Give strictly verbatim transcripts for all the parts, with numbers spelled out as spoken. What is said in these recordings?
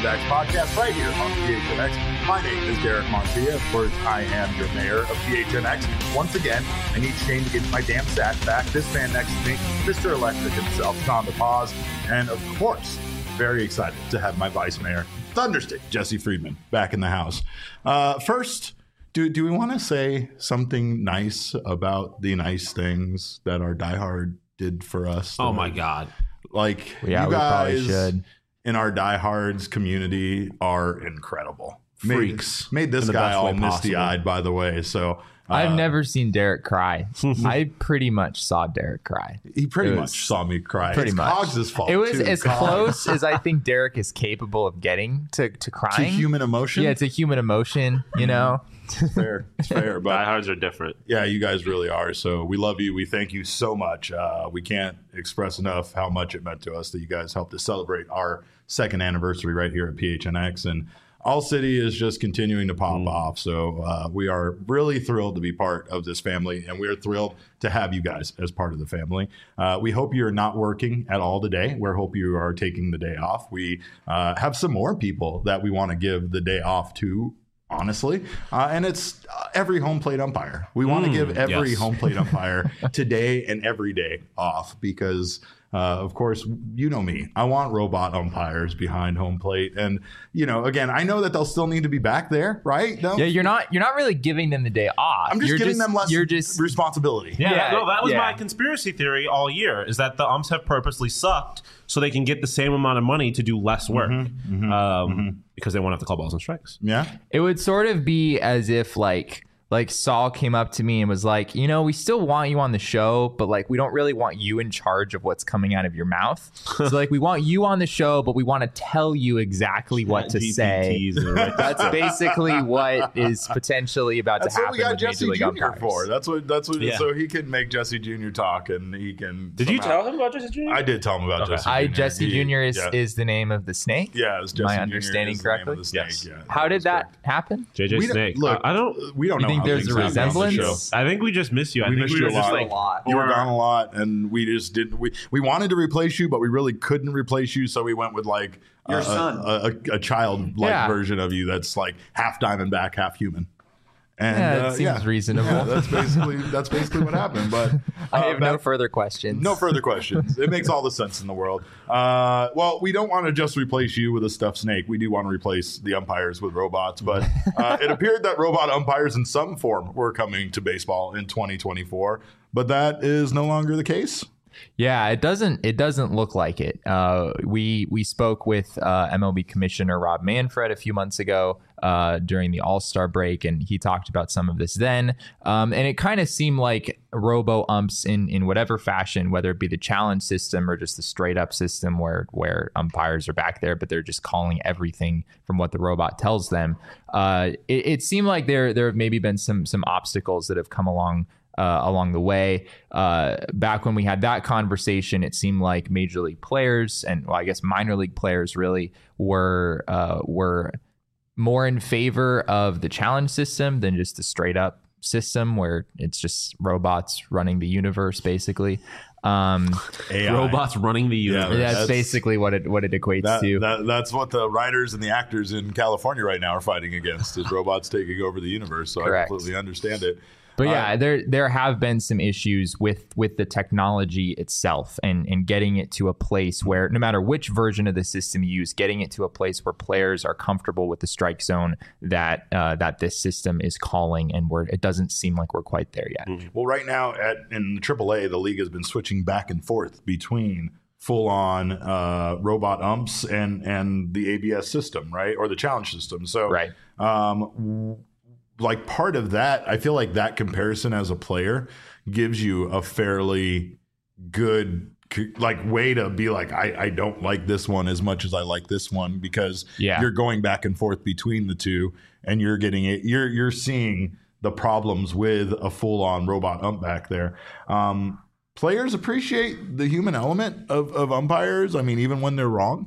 Backs podcast right here on P H N X. My name is Derek Montilla. Of course, I am your mayor of P H N X. Once again, I need Shane to get my damn sack back. This man next to me, Mister Electric himself, Tom DePaz. And of course, very excited to have my vice mayor, Thunderstick, Jesse Friedman, back in the house. Uh, first, do do we want to say something nice about the nice things that our diehard did for us? Oh my God. Like, yeah, you we probably guys should. In our diehards community are incredible. Freaks. Made, made this guy all misty-eyed, by the way. So uh, I've never seen Derek cry. I pretty much saw Derek cry. He pretty It much was saw me cry. Pretty it's much. Cogs' fault. It was too. as Cogs. close as I think Derek is capable of getting to, to to crying. human emotion. Yeah, it's a human emotion, you know? It's fair. It's fair. But Diehards are different. yeah, you guys really are. So we love you. We thank you so much. Uh, we can't express enough how much it meant to us that you guys helped us celebrate our second anniversary right here at P H N X. And All City is just continuing to pop mm. off. So uh, we are really thrilled to be part of this family, and we are thrilled to have you guys as part of the family. Uh, we hope you're not working at all today. We hope you are taking the day off. We uh, have some more people that we want to give the day off to, honestly. Uh, and it's uh, every home plate umpire. We want to Mm, give every yes. home plate umpire today and every day off because, uh, of course, you know me. I want robot umpires behind home plate. And, you know, again, I know that they'll still need to be back there, right? No? Yeah, you're not you're not really giving them the day off. I'm just you're giving them less you're just responsibility. Yeah, Yeah, no, that was yeah. my conspiracy theory all year, is that the umps have purposely sucked so they can get the same amount of money to do less work Mm-hmm, mm-hmm, um, mm-hmm. because they won't have to call balls and strikes. Yeah. It would sort of be as if like like Saul came up to me and was like, you know, we still want you on the show, but like we don't really want you in charge of what's coming out of your mouth. So like we want you on the show, but we want to tell you exactly what to say. That's basically what is potentially about That's to what happen we got with Jesse Major League Junior umpires. for. That's what. That's what. Yeah. So he can make Jesse Junior talk, and he can. Did you somehow- tell him about Jesse Junior? I did tell him about Okay. Jesse. I Junior Jesse He- Junior is, yeah. is the name of the snake. Yeah, it's Jesse My Junior understanding is the name of correctly? the snake. Yes. Yeah, How did is that correct. happen? J J We don't- Snake. look, Uh, I don't. We don't You know. think how there's things a happen on the resemblance? show. I think we just miss you. I We think missed we you were a just lot. like a lot. You were or- gone a lot, and we just didn't. We we wanted to replace you, but we really couldn't replace you, so we went with like Your a, son. a, a, a child-like Yeah. version of you that's like half Diamondback, half human. And Yeah, it uh, seems yeah. reasonable. Yeah, that's basically that's basically what happened. But uh, I have no back- further questions. No further questions. It makes all the sense in the world. Uh, well, we don't want to just replace you with a stuffed snake. We do want to replace the umpires with robots. But uh, it appeared that robot umpires in some form were coming to baseball in twenty twenty-four. But that is no longer the case. Yeah, it doesn't. It doesn't look like it. Uh, we we spoke with uh, M L B Commissioner Rob Manfred a few months ago uh, during the All Star break, and he talked about some of this then. Um, and it kind of seemed like robo umps in in whatever fashion, whether it be the challenge system or just the straight up system where where umpires are back there, but they're just calling everything from what the robot tells them. Uh, it, it seemed like there there have maybe been some some obstacles that have come along. Uh, along the way, uh, back when we had that conversation, it seemed like major league players and, well, I guess minor league players really were uh, were more in favor of the challenge system than just the straight up system where it's just robots running the universe, basically. Um, A I. robots running the Yeah, universe. that's, that's- basically what it what it equates That, to. that, that's what the writers and the actors in California right now are fighting against is robots taking over the universe. So Correct. I completely understand it. But Uh, yeah, there there have been some issues with with the technology itself and and getting it to a place where no matter which version of the system you use, getting it to a place where players are comfortable with the strike zone that uh, that this system is calling, and where it doesn't seem like we're quite there yet. Well, right now at in triple A, the league has been switching back and forth between full-on uh, robot umps and and the A B S system, right, or the challenge system. So, Right. um, w- like part of that, I feel like that comparison as a player gives you a fairly good like way to be like, I, I don't like this one as much as I like this one because Yeah. you're going back and forth between the two and you're getting it. You're, you're seeing the problems with a full on robot ump back there. Um, players appreciate the human element of, of umpires. I mean, even when they're wrong.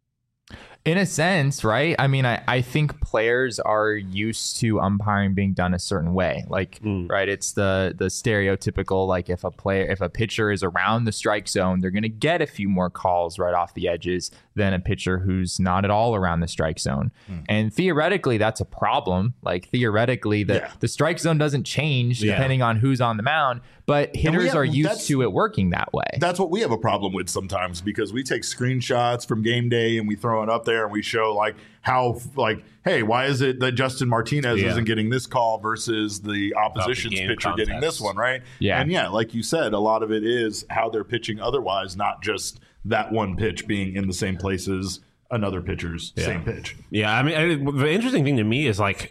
In a sense, right? I mean, I, I think players are used to umpiring being done a certain way. Like, Mm. right, it's the the stereotypical, like if a player, if a pitcher is around the strike zone, they're going to get a few more calls right off the edges than a pitcher who's not at all around the strike zone. Mm. And theoretically, that's a problem. Like theoretically, the, yeah. the strike zone doesn't change yeah. depending on who's on the mound, but hitters have, are used to it working that way. That's what we have a problem with sometimes, because we take screenshots from game day and we throw it up there and we show like how, like, hey, why is it that Justin Martinez yeah. isn't getting this call versus the opposition's the pitcher context. Getting this one, right? Yeah. And yeah, like you said, a lot of it is how they're pitching otherwise, not just that one pitch being in the same place as another pitcher's yeah. same pitch. Yeah, I mean, I, the interesting thing to me is like,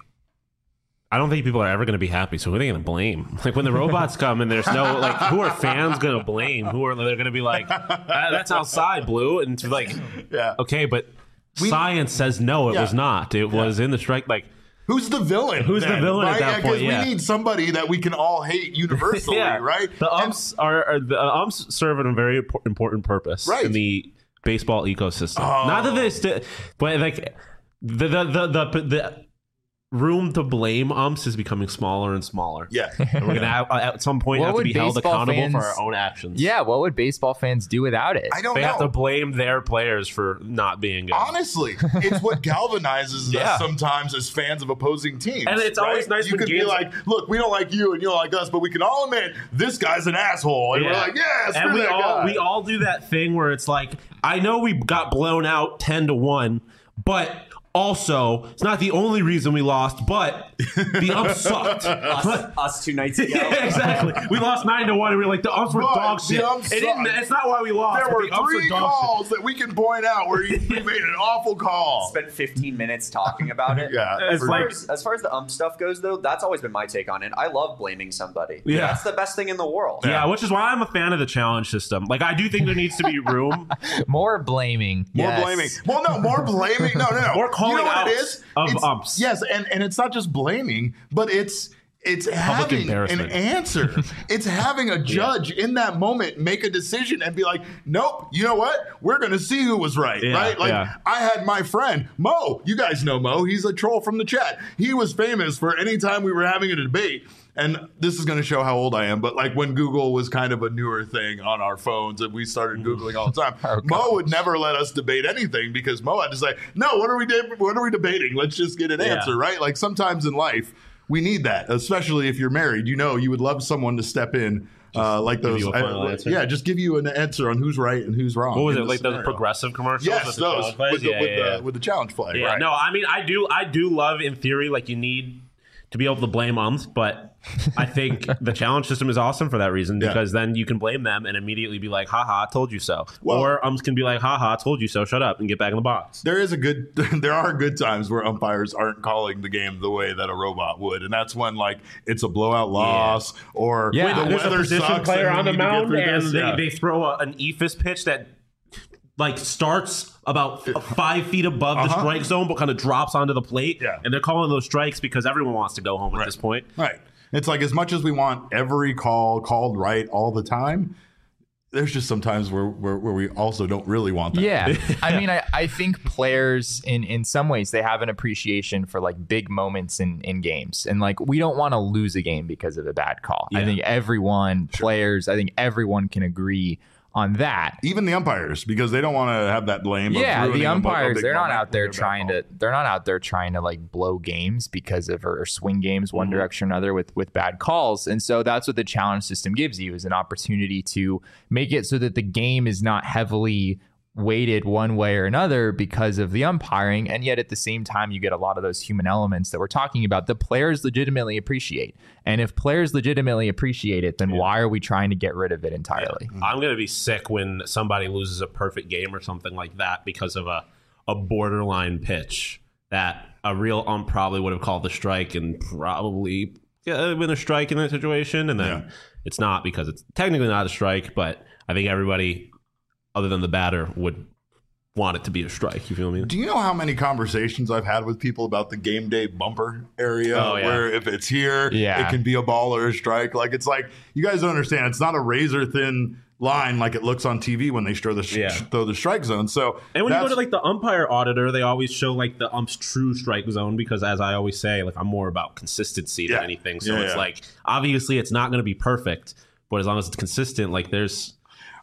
I don't think people are ever going to be happy. So who are they going to blame? Like when the robots come and there's no, like, who are fans going to blame? Who are they're going to be like, ah, that's outside, Blue, and it's like, yeah, okay, but we, science says no, it yeah. was not. It yeah. was in the strike, like. Who's the villain? Who's then, the villain right? at that yeah, point? Yeah, we need somebody that we can all hate universally, yeah. right? The umps and, are, are the umps serve a very important purpose right. in the baseball ecosystem. Oh. Not that this, but like the the the the, the room to blame umps is becoming smaller and smaller. Yeah, and we're gonna have, at some point what have to be held accountable fans, for our own actions. Yeah, what would baseball fans do without it? I don't they know. They have to blame their players for not being good. Honestly, it's what galvanizes yeah. us sometimes as fans of opposing teams. And it's right? always nice you when can games be like, look, we don't like you and you don't like us, but we can all admit this guy's an asshole, and yeah. we're like, yeah, screw and we that all guy. we all do that thing where it's like, I know we got blown out ten to one, but. Also, it's not the only reason we lost, but the umps sucked. us, us two nights ago. Yeah, exactly. We lost nine to one, and we were like, the umps were but dog shit. It didn't, it's not why we lost. There were the umps three were calls shit. that we can point out where he, he made an awful call. Spent fifteen minutes talking about it. yeah, as for, far as, as far as the ump stuff goes, though, that's always been my take on it. I love blaming somebody. Yeah, that's the best thing in the world. Yeah, yeah, which is why I'm a fan of the challenge system. Like, I do think there needs to be room. More blaming. More yes. blaming. Well, no, more blaming. No, no, no. More calling you know out what it is? of it's, umps. Yes, and, and it's not just blaming, but it's it's having an answer. It's having a judge yeah. in that moment make a decision and be like, nope, you know what? We're going to see who was right, yeah, right? Like, yeah. I had my friend, Mo. You guys know Mo. He's a troll from the chat. He was famous for any time we were having a debate. And this is going to show how old I am, but like when Google was kind of a newer thing on our phones and we started Googling all the time, oh, Mo would never let us debate anything because Mo had to say, no, what are we, de- what are we debating? Let's just get an yeah. answer, right? Like sometimes in life, we need that, especially if you're married. You know, you would love someone to step in uh, like those. I, yeah, just give you an answer on who's right and who's wrong. What was it, like scenario. The progressive commercials? Yes, with those, the with the, yeah, with, yeah, the, yeah. with the challenge flag. Yeah, right. no, I mean, I do, I do love in theory, like you need to be able to blame umps, but I think the challenge system is awesome for that reason because yeah. then you can blame them and immediately be like, haha, I told you so. Well, or umps can be like, haha, I told you so, shut up and get back in the box. There is a good, there are good times where umpires aren't calling the game the way that a robot would. And that's when like it's a blowout loss yeah. or yeah. the there's weather a position sucks player on the mound and this. they, Yeah. they throw a, an E F I S pitch that like starts about f- five feet above uh-huh. the strike zone, but kind of drops onto the plate. Yeah. And they're calling those strikes because everyone wants to go home at right. this point. Right. It's like as much as we want every call called right all the time, there's just some times where, where, where we also don't really want that. Yeah. I mean, I, I think players in, in some ways, they have an appreciation for like big moments in, in games. And like, we don't want to lose a game because of a bad call. Yeah. I think everyone, sure. players, I think everyone can agree on that. Even the umpires, because they don't want to have that blame. Yeah, of the umpires, a, a they're not out there trying to, they're not out there trying to like blow games because of, or swing games one mm-hmm. direction or another with, with bad calls. And so that's what the challenge system gives you, is an opportunity to make it so that the game is not heavily weighted one way or another because of the umpiring, and yet at the same time you get a lot of those human elements that we're talking about that players legitimately appreciate. And if players legitimately appreciate it, then yeah. why are we trying to get rid of it entirely? Yeah. I'm gonna be sick when somebody loses a perfect game or something like that because of a a borderline pitch that a real ump probably would have called the strike and probably yeah, been a strike in that situation, and then yeah. it's not because it's technically not a strike, but I think everybody other than the batter would want it to be a strike. You feel me? Do you know how many conversations I've had with people about the game day bumper area oh, yeah. where if it's here, yeah. it can be a ball or a strike? Like, it's like, you guys don't understand. It's not a razor thin line like it looks on T V when they show the sh- yeah. throw the strike zone. So, and when you go to like the umpire auditor, they always show like the ump's true strike zone because, as I always say, like I'm more about consistency yeah. than anything. So yeah, it's yeah. like, obviously it's not going to be perfect, but as long as it's consistent, like there's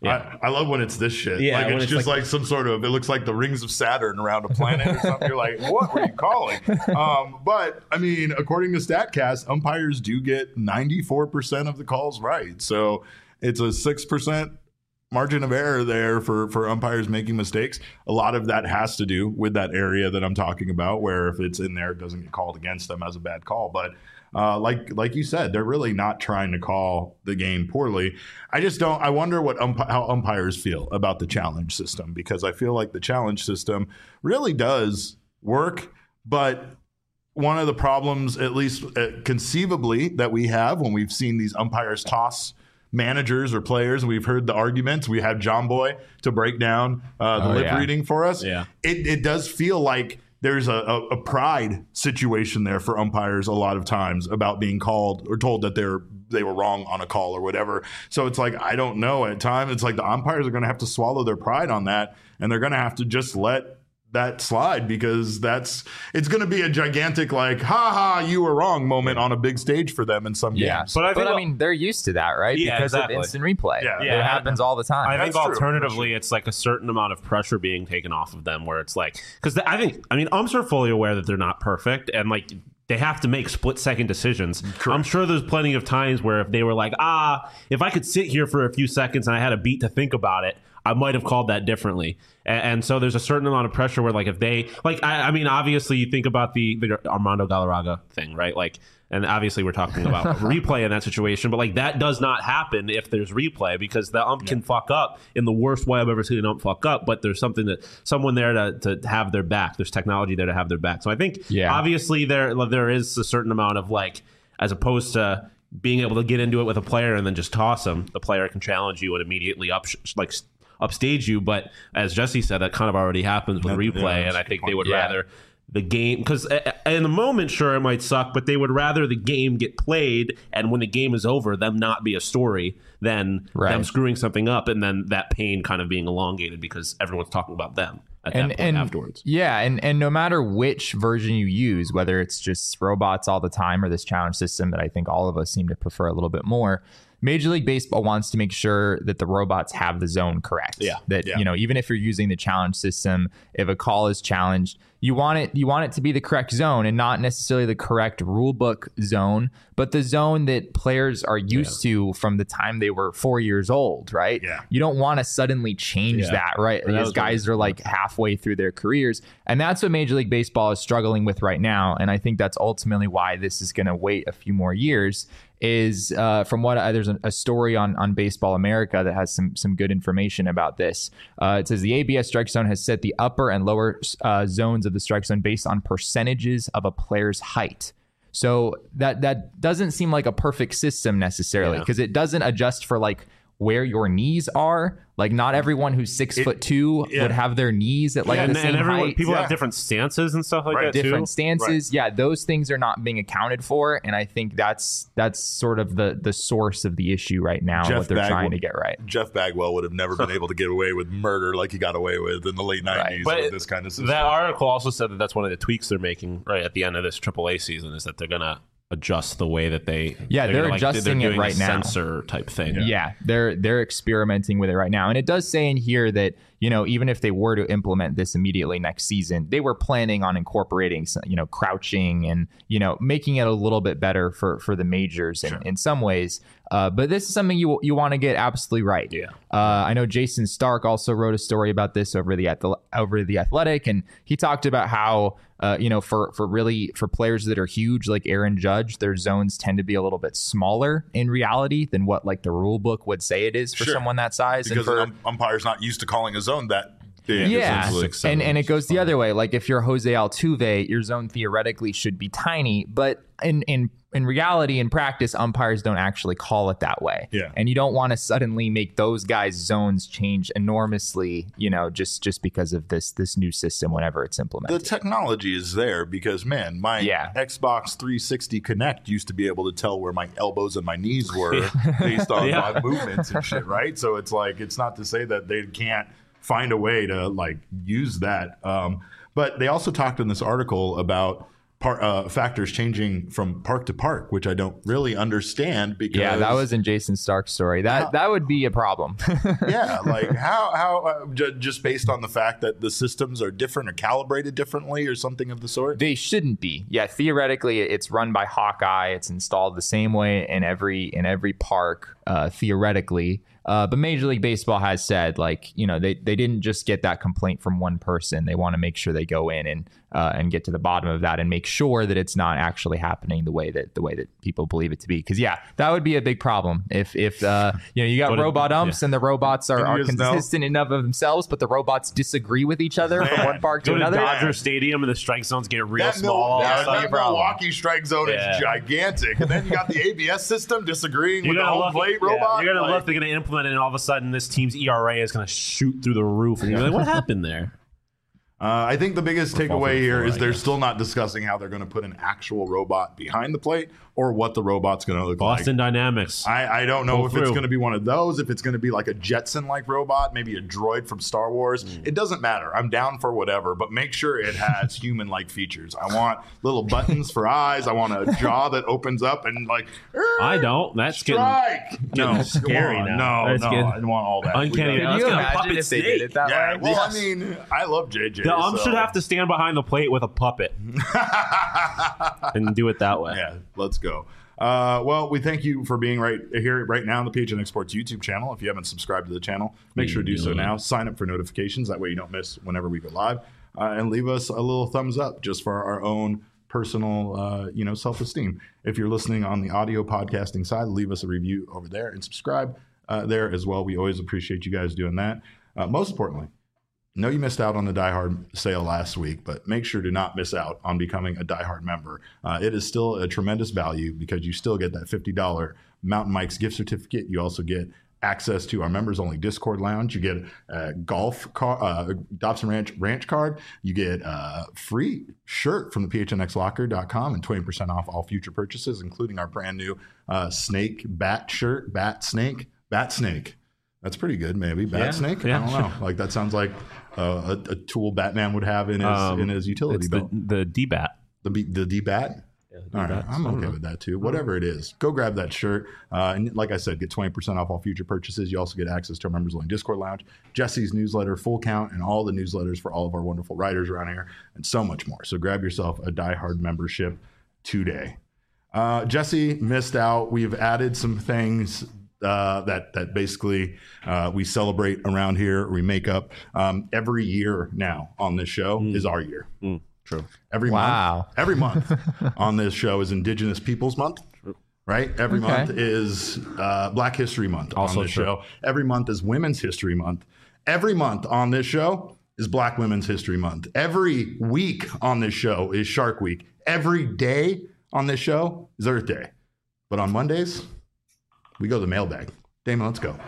Yeah. I, I love when it's this shit. Yeah, like when it's it's just like- like, some sort of, it looks like the rings of Saturn around a planet or something. You're like, what were you calling? Um, but I mean, according to StatCast, umpires do get ninety-four percent of the calls right. So it's a six percent margin of error there for, for umpires making mistakes. A lot of that has to do with that area that I'm talking about, where if it's in there, it doesn't get called against them as a bad call. But uh, like like you said, they're really not trying to call the game poorly. I just don't. I wonder what ump- how umpires feel about the challenge system, because I feel like the challenge system really does work, but one of the problems, at least uh, conceivably, that we have when we've seen these umpires toss managers or players, and we've heard the arguments. We have John Boy to break down uh, the Oh, lip yeah. reading for us. Yeah. It, it does feel like there's a, a, a pride situation there for umpires a lot of times about being called or told that they're they were wrong on a call or whatever. So it's like, I don't know. At times, it's like the umpires are going to have to swallow their pride on that, and they're going to have to just let that slide, because that's it's going to be a gigantic like ha ha you were wrong moment on a big stage for them in some Yeah, games. But I think- mean, they're used to that, right? Yeah, because exactly. of instant replay. Yeah. it Yeah. happens all the time. I think That's true. alternatively, it's like a certain amount of pressure being taken off of them, where it's like, because I think, I mean, umps are fully aware that they're not perfect, and like they have to make split second decisions. I'm sure there's plenty of times where if they were like, ah, if I could sit here for a few seconds and I had a beat to think about it, I might have called that differently. And, and so there's a certain amount of pressure where, like, if they, like, I, I mean, obviously you think about the, the Armando Galarraga thing, right? Like, and obviously we're talking about replay in that situation, but like that does not happen if there's replay, because the ump can fuck up in the worst way I've ever seen an ump fuck up, but there's something that someone there to, to have their back. There's technology there to have their back. So I think Yeah. obviously there there is a certain amount of like, as opposed to being able to get into it with a player and then just toss them, the player can challenge you and immediately up like upstage you. But as Jesse said, that kind of already happens with Yeah, replay, yeah, and I that's a think good they would point. Yeah. rather the game, because in the moment, sure, it might suck, but they would rather the game get played, and when the game is over, them not be a story than Right. them screwing something up, and then that pain kind of being elongated because everyone's talking about them at and that point and afterwards. yeah, and and no matter which version you use, whether it's just robots all the time or this challenge system that I think all of us seem to prefer a little bit more, Major League Baseball wants to make sure that the robots have the zone correct. Yeah. That Yeah. you know, even if you're using the challenge system, if a call is challenged, you want it you want it to be the correct zone and not necessarily the correct rule book zone, but the zone that players are used to from the time they were four years old, right? Yeah. You don't want to suddenly change Yeah. that, right? And that These was guys are like halfway through their careers, and that's what Major League Baseball is struggling with right now. And I think that's ultimately why this is going to wait a few more years. Is uh, from what I, there's a, a story on on Baseball America that has some some good information about this. Uh, it says the A B S strike zone has set the upper and lower uh, zones of the strike zone based on percentages of a player's height. So that that doesn't seem like a perfect system necessarily, Yeah. because it doesn't adjust for like where your knees are. Like not everyone who's six It- foot two yeah. would have their knees at like and, the same and everyone, height. people Yeah. have different stances and stuff like Right. that too. different stances. Yeah, those things are not being accounted for, and I think that's that's sort of the the source of the issue right now, and Jeff what they're Bagwell- trying to get right. Jeff Bagwell would have never been able to get away with murder like he got away with in the late nineties But with this kind of system. That article also said that that's one of the tweaks they're making right at the end of this triple A season, is that they're gonna adjust the way that they Yeah, they're gonna, like, adjusting it doing a right now. sensor type thing. Yeah. they're they're experimenting with it right now, and it does say in here that you know even if they were to implement this immediately next season, they were planning on incorporating some, you know crouching and you know making it a little bit better for for the majors in, Sure. in some ways. Uh, but this is something you you want to get absolutely right. Yeah. Uh, I know Jason Stark also wrote a story about this over the Athle- over the Athletic, and he talked about how uh, you know for for really for players that are huge like Aaron Judge, their zones tend to be a little bit smaller in reality than what like the rule book would say it is for Sure. someone that size. because and for, an um, umpire's not used to calling a zone that big. yeah, essentially. Six, seven, and and it which goes is the fine. other way. Like if you're Jose Altuve, your zone theoretically should be tiny, but in in in reality, in practice, umpires don't actually call it that way. Yeah. And you don't want to suddenly make those guys' zones change enormously, you know, just just because of this this new system whenever it's The implemented. technology is there because, man, my Yeah. Xbox three sixty Connect used to be able to tell where my elbows and my knees were based on Yeah. my movements and shit, right? So it's like, it's not to say that they can't find a way to like use that. Um, but they also talked in this article about par- uh, factors changing from park to park, which I don't really understand. Because Yeah, that was in Jason Stark's story. That How- that would be a problem. yeah, like how how uh, j- just based on the fact that the systems are different or calibrated differently or something of the sort. They shouldn't be. Yeah, theoretically, it's run by Hawkeye. It's installed the same way in every in every park, uh, theoretically. Uh, but Major League Baseball has said, like, you know, they, they didn't just get that complaint from one person. They want to make sure they go in and uh, and get to the bottom of that and make sure that it's not actually happening the way that the way that people believe it to be. Because yeah, that would be a big problem if if uh, you know you got But it- robot umps yeah. and the robots are, And are you just know- consistent enough of themselves, but the robots disagree with each other from Man, one park to Go to another. Dodger Stadium and the strike zones get real That, small. Mil- all of a that, sudden. that problem. Milwaukee strike zone Yeah. is gigantic, and then you got the A B S system disagreeing You're with the gonna home look, plate yeah, robot. You're gonna Like, look. They're gonna implement it, and all of a sudden, this team's E R A is gonna shoot through the roof. And you're like, "What happened there?" Uh, I think the biggest Or fall takeaway through the here floor, is I they're guess. still not discussing how they're going to put an actual robot behind the plate or what the robot's going to look Boston like. Dynamics. I, I don't know Pull if through. it's going to be one of those, if it's going to be like a Jetson-like robot, maybe a droid from Star Wars. Mm. It doesn't matter. I'm down for whatever, but make sure it has human-like features. I want little buttons for eyes. I want a jaw that opens up and like, I don't. That's getting strike. No, come scary on. now. No, That's no, getting I don't want all that. We uncanny. got- Can Let's you get a imagine puppet if they did snake. it that Yeah, way? well, Yes. I mean, I love J J. The ump so- should have to stand behind the plate with a puppet and do it that way. Yeah, let's go. Uh, well, we thank you for being right here right now on the P H N X Sports YouTube channel. If you haven't subscribed to the channel, make sure to do so Yeah. now. Sign up for notifications. That way you don't miss whenever we go live. Uh, and leave us a little thumbs up just for our own personal, uh, you know, self-esteem. If you're listening on the audio podcasting side, leave us a review over there and subscribe uh, there as well. We always appreciate you guys doing that. Uh, most importantly, know you missed out on the Die Hard sale last week, but make sure to not miss out on becoming a Die Hard member. Uh, it is still a tremendous value because you still get that fifty dollars Mountain Mike's gift certificate. You also get access to our members-only Discord lounge. You get a golf car, uh, Dobson Ranch ranch card. You get a free shirt from the P H N X locker dot com and twenty percent off all future purchases, including our brand new uh, snake bat shirt, bat snake, bat snake. That's pretty good, maybe. Bat Yeah, snake? yeah. I don't know. Like, that sounds like uh, a, a tool Batman would have in his Um, in his utility It's the, belt. the D-Bat. The B, the D bat. All right, I'm okay with that too. Whatever it is, go grab that shirt. Uh, and like I said, get twenty percent off all future purchases. You also get access to our members only Discord lounge, Jesse's newsletter, Full Count, and all the newsletters for all of our wonderful writers around here, and so much more. So grab yourself a Die Hard membership today. Uh, Jesse missed out. We've added some things uh, that that basically uh, we celebrate around here. We make up um, every year now on this show is our year. Mm, true. Every Wow. month, every month on this show is Indigenous Peoples Month, right? Every Okay. month is uh, Black History Month Also on this true. show. Every month is Women's History Month. Every month on this show is Black Women's History Month. Every week on this show is Shark Week. Every day on this show is Earth Day. But on Mondays, we go to the mailbag. Damon, let's go.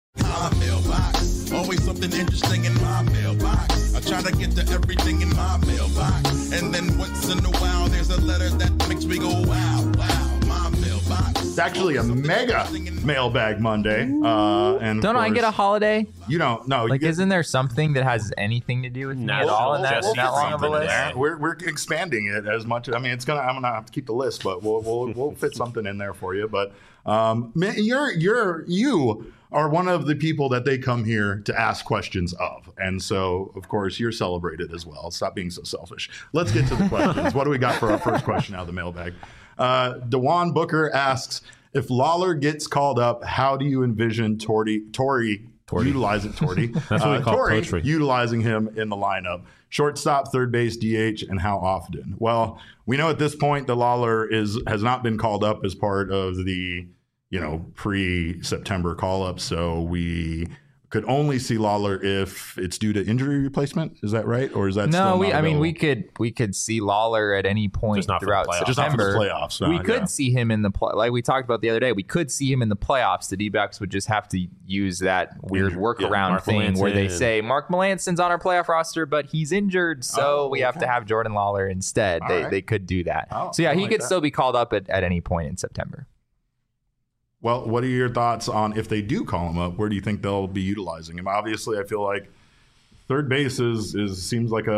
My mailbox, always something interesting in my mailbox. I try to get to everything in my mailbox, and then once in a while there's a letter that makes me go wow, wow. My mailbox. It's actually a mega mailbag Monday. Uh, and of Don't I get a course- holiday? You don't. No, Like, you get, isn't there something that has anything to do with me No, at all in that, Jesse, in that long of a something in list? there. We're, we're expanding it as much. I mean, it's gonna. I'm gonna have to keep the list, but we'll we'll, we'll fit something in there for you. But um, man, you're you're you are one of the people that they come here to ask questions of, and so of course you're celebrated as well. Stop being so selfish. Let's get to the questions. What do we got for our first question out of the mailbag? Uh, Dewan Booker asks, if Lawler gets called up, how do you envision Tory Tory utilizing Tory? That's what we call Tory poetry. utilizing him in the lineup? Shortstop, third base, D H, and how often? Well, we know at this point that Lawler is has not been called up as part of the you know pre-September call-up, so we could only see Lawler if it's due to injury replacement. Is that right, or is that No, still we. not I mean, we available? could we could see Lawler at any point Just not for the throughout playoffs. Just not for the September. playoffs, no, we could yeah. see him in the play, like we talked about the other day. We could see him in the playoffs. The D-backs would just have to use that weird Yeah, workaround Mark thing where they Melancon. say Mark Melanson's on our playoff roster, but he's injured, so Oh, we have okay. to have Jordan Lawler instead. All They right. they could do that. Oh, so yeah, I he like could that. still be called up at, at any point in September. Well, what are your thoughts on if they do call him up? Where do you think they'll be utilizing him? Obviously, I feel like third base is, is seems like a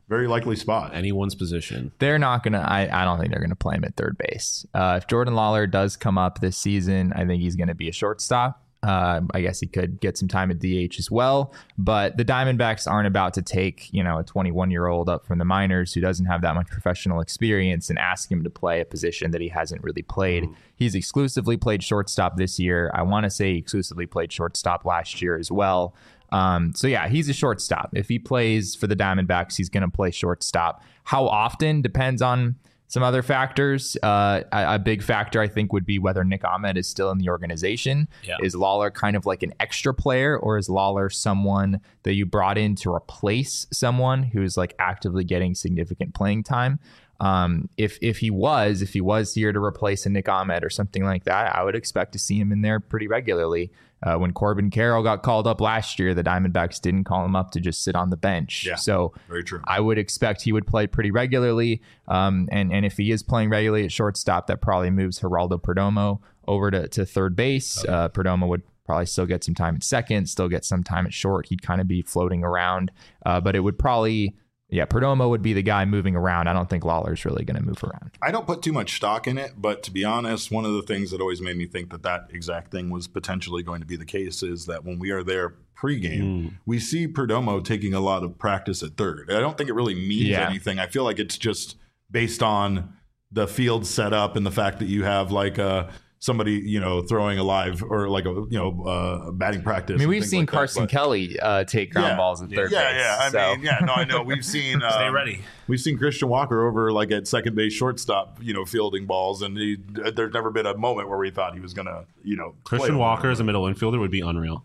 very likely spot. Anyone's position. They're not going to, I don't think they're going to play him at third base. Uh, if Jordan Lawler does come up this season, I think he's going to be a shortstop. Uh, I guess he could get some time at D H as well, but the Diamondbacks aren't about to take, you know, a twenty-one year old up from the minors who doesn't have that much professional experience and ask him to play a position that he hasn't really played. Mm. He's exclusively played shortstop this year. I want to say he exclusively played shortstop last year as well. Um, so yeah, he's a shortstop. If he plays for the Diamondbacks, he's going to play shortstop. How often depends on some other factors. Uh, a, a big factor, I think, would be whether Nick Ahmed is still in the organization. Yeah. Is Lawler kind of like an extra player, or is Lawler someone that you brought in to replace someone who's like actively getting significant playing time? Um, if if he was, if he was here to replace a Nick Ahmed or something like that, I would expect to see him in there pretty regularly. Uh, when Corbin Carroll got called up last year, the Diamondbacks didn't call him up to just sit on the bench. Yeah, so very true. I would expect he would play pretty regularly. Um, and, and if he is playing regularly at shortstop, that probably moves Geraldo Perdomo over to, to third base. Okay. Uh, Perdomo would probably still get some time at second, still get some time at short. He'd kind of be floating around, uh, but it would probably... Yeah, Perdomo would be the guy moving around. I don't think Lawler's really going to move around. I don't put too much stock in it, but to be honest, one of the things that always made me think that that exact thing was potentially going to be the case is that when we are there pregame, mm. we see Perdomo taking a lot of practice at third. I don't think it really means yeah. anything. I feel like it's just based on the field setup and the fact that you have like a somebody, you know, throwing a live or like a, you know, uh, batting practice. I mean, we've seen like Carson that, Kelly uh, take ground yeah, balls at third yeah, base. Yeah, yeah. I so. mean, yeah, no, I know. We've seen. Um, Stay ready. We've seen Christian Walker over like at second base, shortstop, you know, fielding balls, and he, there's never been a moment where we thought he was gonna, you know, Christian Walker as a middle infielder would be unreal.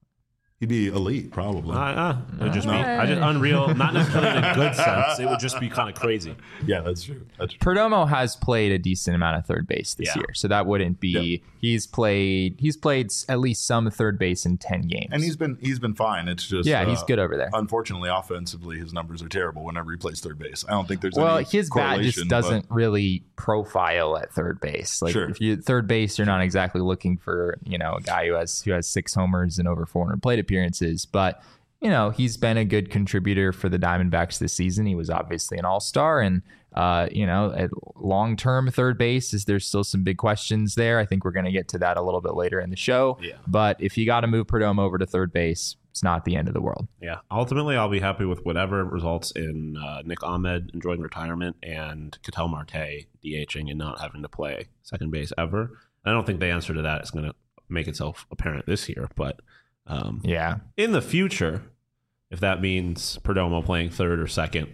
He'd be elite, probably. Uh, uh, it would just be I just unreal, not necessarily in a good sense. It would just be kind of crazy. Yeah, that's true. That's true. Perdomo has played a decent amount of third base this yeah. year, so that wouldn't be. Yep. He's played. He's played at least some third base in ten games, and he's been he's been fine. It's just yeah, he's uh, good over there. Unfortunately, offensively, his numbers are terrible whenever he plays third base. I don't think there's well, any his bat just doesn't but... really profile at third base. Like sure. if you third base, you're not exactly looking for you know a guy who has who has six homers and over four hundred plate appearances, but But, you know, he's been a good contributor for the Diamondbacks this season. He was obviously an all-star. And, uh, you know, at long-term third base, is there's still some big questions there. I think we're going to get to that a little bit later in the show. Yeah. But if you got to move Perdomo over to third base, it's not the end of the world. Yeah. Ultimately, I'll be happy with whatever results in uh, Nick Ahmed enjoying retirement and Ketel Marte DHing and not having to play second base ever. I don't think the answer to that is going to make itself apparent this year, but... Um, yeah. In the future, if that means Perdomo playing third or second,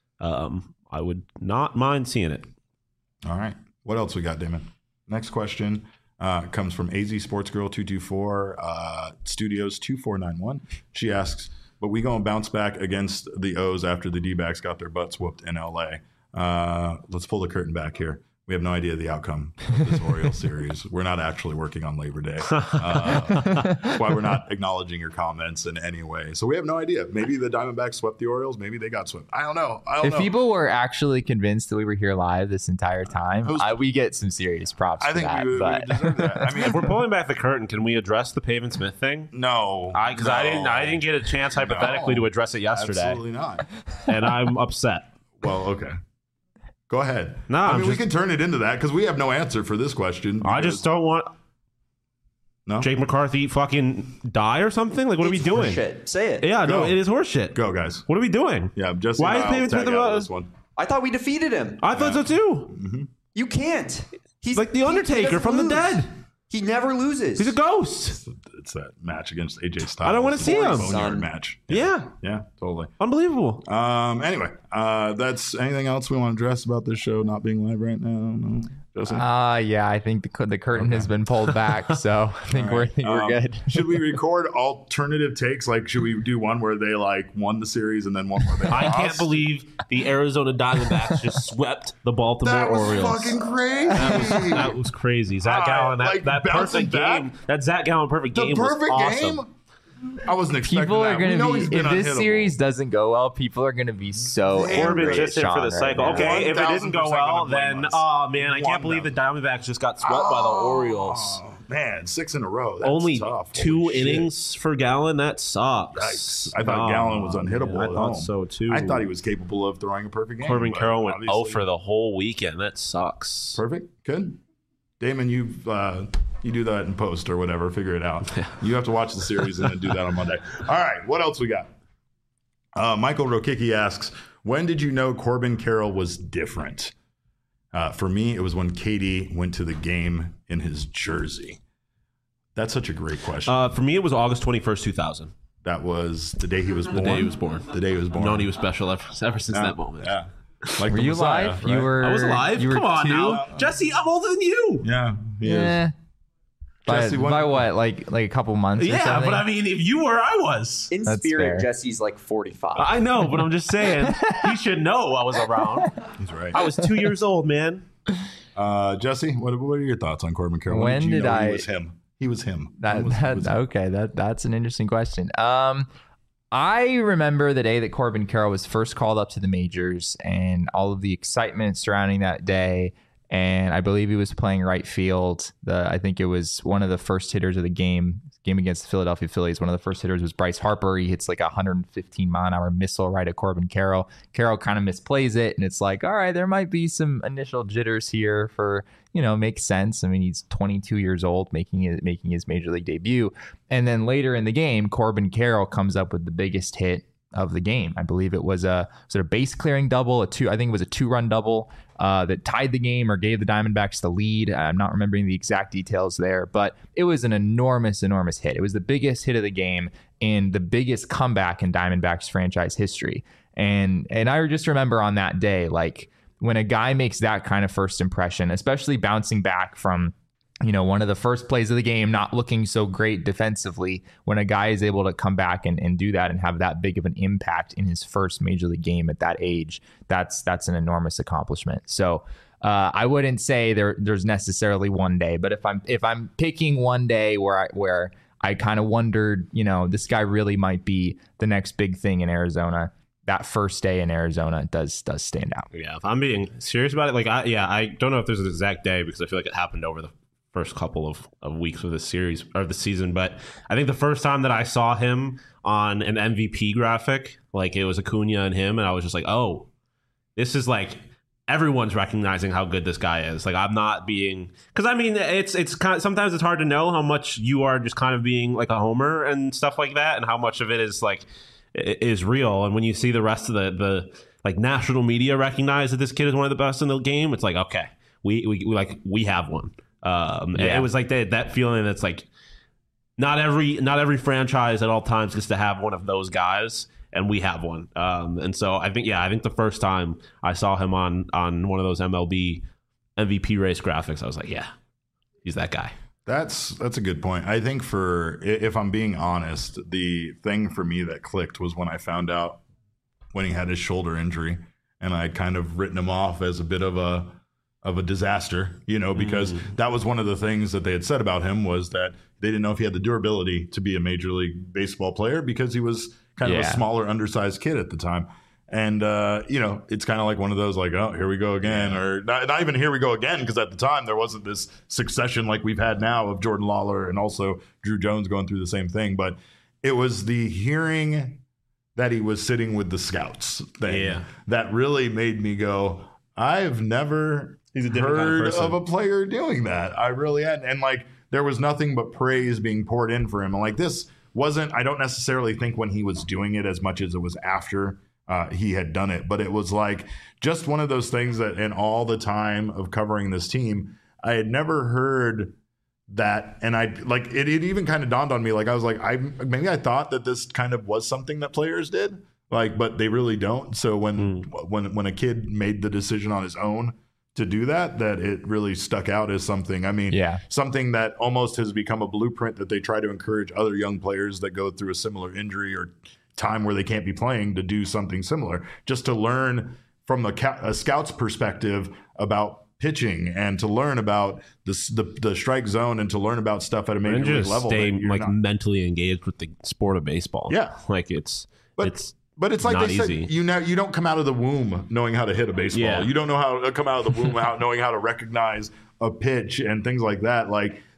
um, I would not mind seeing it. All right. What else we got, Damon? Next question uh, comes from A Z Sports Girl two two four uh, Studios two four nine one. She asks, "But we going to bounce back against the O's after the D-backs got their butts whooped in L A?" Uh, let's pull the curtain back here. We have no idea the outcome of this Orioles series. We're not actually working on Labor Day. Uh, that's why we're not acknowledging your comments in any way. So we have no idea. Maybe the Diamondbacks swept the Orioles. Maybe they got swept. I don't know. I don't if know. people were actually convinced that we were here live this entire time, was, I, we get some serious props I for think that. we, but. we deserve that. I mean, if we're pulling back the curtain, can we address the Pavin Smith thing? No. Because I, no. I, didn't, I didn't get a chance hypothetically no, to address it yesterday. Absolutely not. And I'm upset. Well, okay. Go ahead. No, I mean, just, we can turn it into that because we have no answer for this question. I just don't want no? Jake McCarthy fucking die or something. Like, what it's are we doing? Horseshit. Say it. Yeah, Go. no, it is horseshit. Go, guys. What are we doing? Yeah, just why is Pavin Smith about this one? I thought we defeated him. I thought yeah. so too. Mm-hmm. You can't. He's like the Undertaker from lose. the dead. He never loses. He's a ghost. It's that match against A J Styles. I don't want to see him. Boneyard match. Yeah. yeah. Yeah, totally. Unbelievable. Um. Anyway, uh, that's anything else we want to address about this show not being live right now? No. Justin? Uh, yeah, I think the, the curtain okay. has been pulled back, so I think, right. we're, I think we're um, good. Should we record alternative takes? Like, should we do one where they like won the series and then one where they I lost? can't believe the Arizona Diamondbacks just swept the Baltimore that was Orioles. Fucking crazy. That was, that was crazy. Zach uh, Gallen, that, like that perfect back? game. That Zach Gallen perfect the game perfect was awesome. Game? I wasn't expecting people that. are going to be if this unhittable. series doesn't go well, people are going to be so Corbin angry just at in for Sean the cycle. right Okay, if it didn't go well, then us. oh man, I can't believe the Diamondbacks just got swept oh, by the Orioles. man, six in a row. That's Only tough. two Holy shit. innings for Gallen. That sucks. Yikes. I thought Oh, Gallen was unhittable man, I at thought home. so too. I thought he was capable of throwing a perfect game. Corbin but Carroll went oh obviously- for the whole weekend. That sucks. Perfect. Good. Damon, you've uh, you do that in post or whatever. Figure it out. You have to watch the series and then do that on Monday. All right. What else we got? Uh, Michael Rokicki asks, when did you know Corbin Carroll was different? Uh, for me, it was when K D went to the game in his jersey. That's such a great question. Uh, for me, it was August twenty-first, two thousand. that was the day he was born. The day he was born. The day he was born. I've known he was special ever, ever since Yeah. that moment. Yeah. Like Were the you Messiah, live? right? You were. I was alive. You were Come on two? now. Jesse, I'm older than you. Yeah. He is. Yeah. By, Jesse, when- by what? Like like a couple months? or Yeah, something? but I mean, if you were, I was. In That's spirit, fair. Jesse's like forty-five. I know, but I'm just saying, he should know I was around. He's right. I was two years old, man. Uh, Jesse, what, what are your thoughts on Corbin Carroll? When you did know I- He was him. He was him. That, When was- that was him? okay. That that's an interesting question. Um, I remember the day that Corbin Carroll was first called up to the majors and all of the excitement surrounding that day. And I believe he was playing right field. The I think it was one of the first hitters of the game. Game against the Philadelphia Phillies. One of the first hitters was Bryce Harper. He hits like a one hundred fifteen mile an hour missile right at Corbin Carroll. Carroll kind of misplays it, and it's like, all right, there might be some initial jitters here for, you know, makes sense. I mean, he's twenty-two years old, making it making his major league debut, and then later in the game, Corbin Carroll comes up with the biggest hit of the game. I believe it was a sort of base clearing double, a two. I think it was a two run double uh, that tied the game or gave the Diamondbacks the lead. I'm not remembering the exact details there, but it was an enormous, enormous hit. It was the biggest hit of the game and the biggest comeback in Diamondbacks franchise history. And and I just remember on that day, like when a guy makes that kind of first impression, especially bouncing back from, you know, one of the first plays of the game, not looking so great defensively, when a guy is able to come back and, and do that and have that big of an impact in his first major league game at that age, that's that's an enormous accomplishment. So uh, I wouldn't say there there's necessarily one day, but if I'm if I'm picking one day where I where I kind of wondered, you know, this guy really might be the next big thing in Arizona, that first day in Arizona does does stand out. Yeah, if I'm being serious about it, like, I, yeah, I don't know if there's an exact day because I feel like it happened over the first couple of, of weeks of the series or the season, but I think the first time that I saw him on an M V P graphic, like it was Acuna and him, and I was just like, oh, this is like everyone's recognizing how good this guy is. Like, I'm not being, because I mean, it's it's kind of, sometimes it's hard to know how much you are just kind of being like a homer and stuff like that, and how much of it is like is real. And when you see the rest of the the like national media recognize that this kid is one of the best in the game, it's like, okay, we we, we like we have one. Um, and Yeah. it was like that, that feeling that's like not every not every franchise at all times gets to have one of those guys, and we have one. Um, and so I think, yeah, I think the first time I saw him on on one of those M L B M V P race graphics, I was like, yeah, he's that guy. That's that's a good point. I think for i- if I'm being honest, the thing for me that clicked was when I found out when he had his shoulder injury, and I'd kind of written him off as a bit of a of a disaster, you know, because Mm. that was one of the things that they had said about him was that they didn't know if he had the durability to be a Major League Baseball player because he was kind of Yeah. a smaller, undersized kid at the time. And, uh, you know, it's kind of like one of those like, oh, here we go again. Or not, not even here we go again, because at the time there wasn't this succession like we've had now of Jordan Lawler and also Drew Jones going through the same thing. But it was the hearing that he was sitting with the scouts thing Yeah. that really made me go, I've never He's a different kind of heard person. of a player doing that. I really hadn't. And like, there was nothing but praise being poured in for him. And like, this wasn't, I don't necessarily think when he was doing it as much as it was after uh, he had done it, but it was like just one of those things that in all the time of covering this team, I had never heard that. And I like, it, it even kind of dawned on me. Like, I was like, I maybe I thought that this kind of was something that players did, like, but they really don't. So when, when, when a kid made the decision on his own to do that, that it really stuck out as something. I mean, Yeah. something that almost has become a blueprint that they try to encourage other young players that go through a similar injury or time where they can't be playing to do something similar, just to learn from a, ca- a scout's perspective about pitching and to learn about the, the the strike zone and to learn about stuff at a major And league just level. stay that you're like not- mentally engaged with the sport of baseball. Yeah. like it's But- it's But it's like not they said, easy. you know, you don't come out of the womb knowing how to hit a baseball. Yeah. You don't know how to come out of the womb out knowing how to recognize a pitch and things like that. Like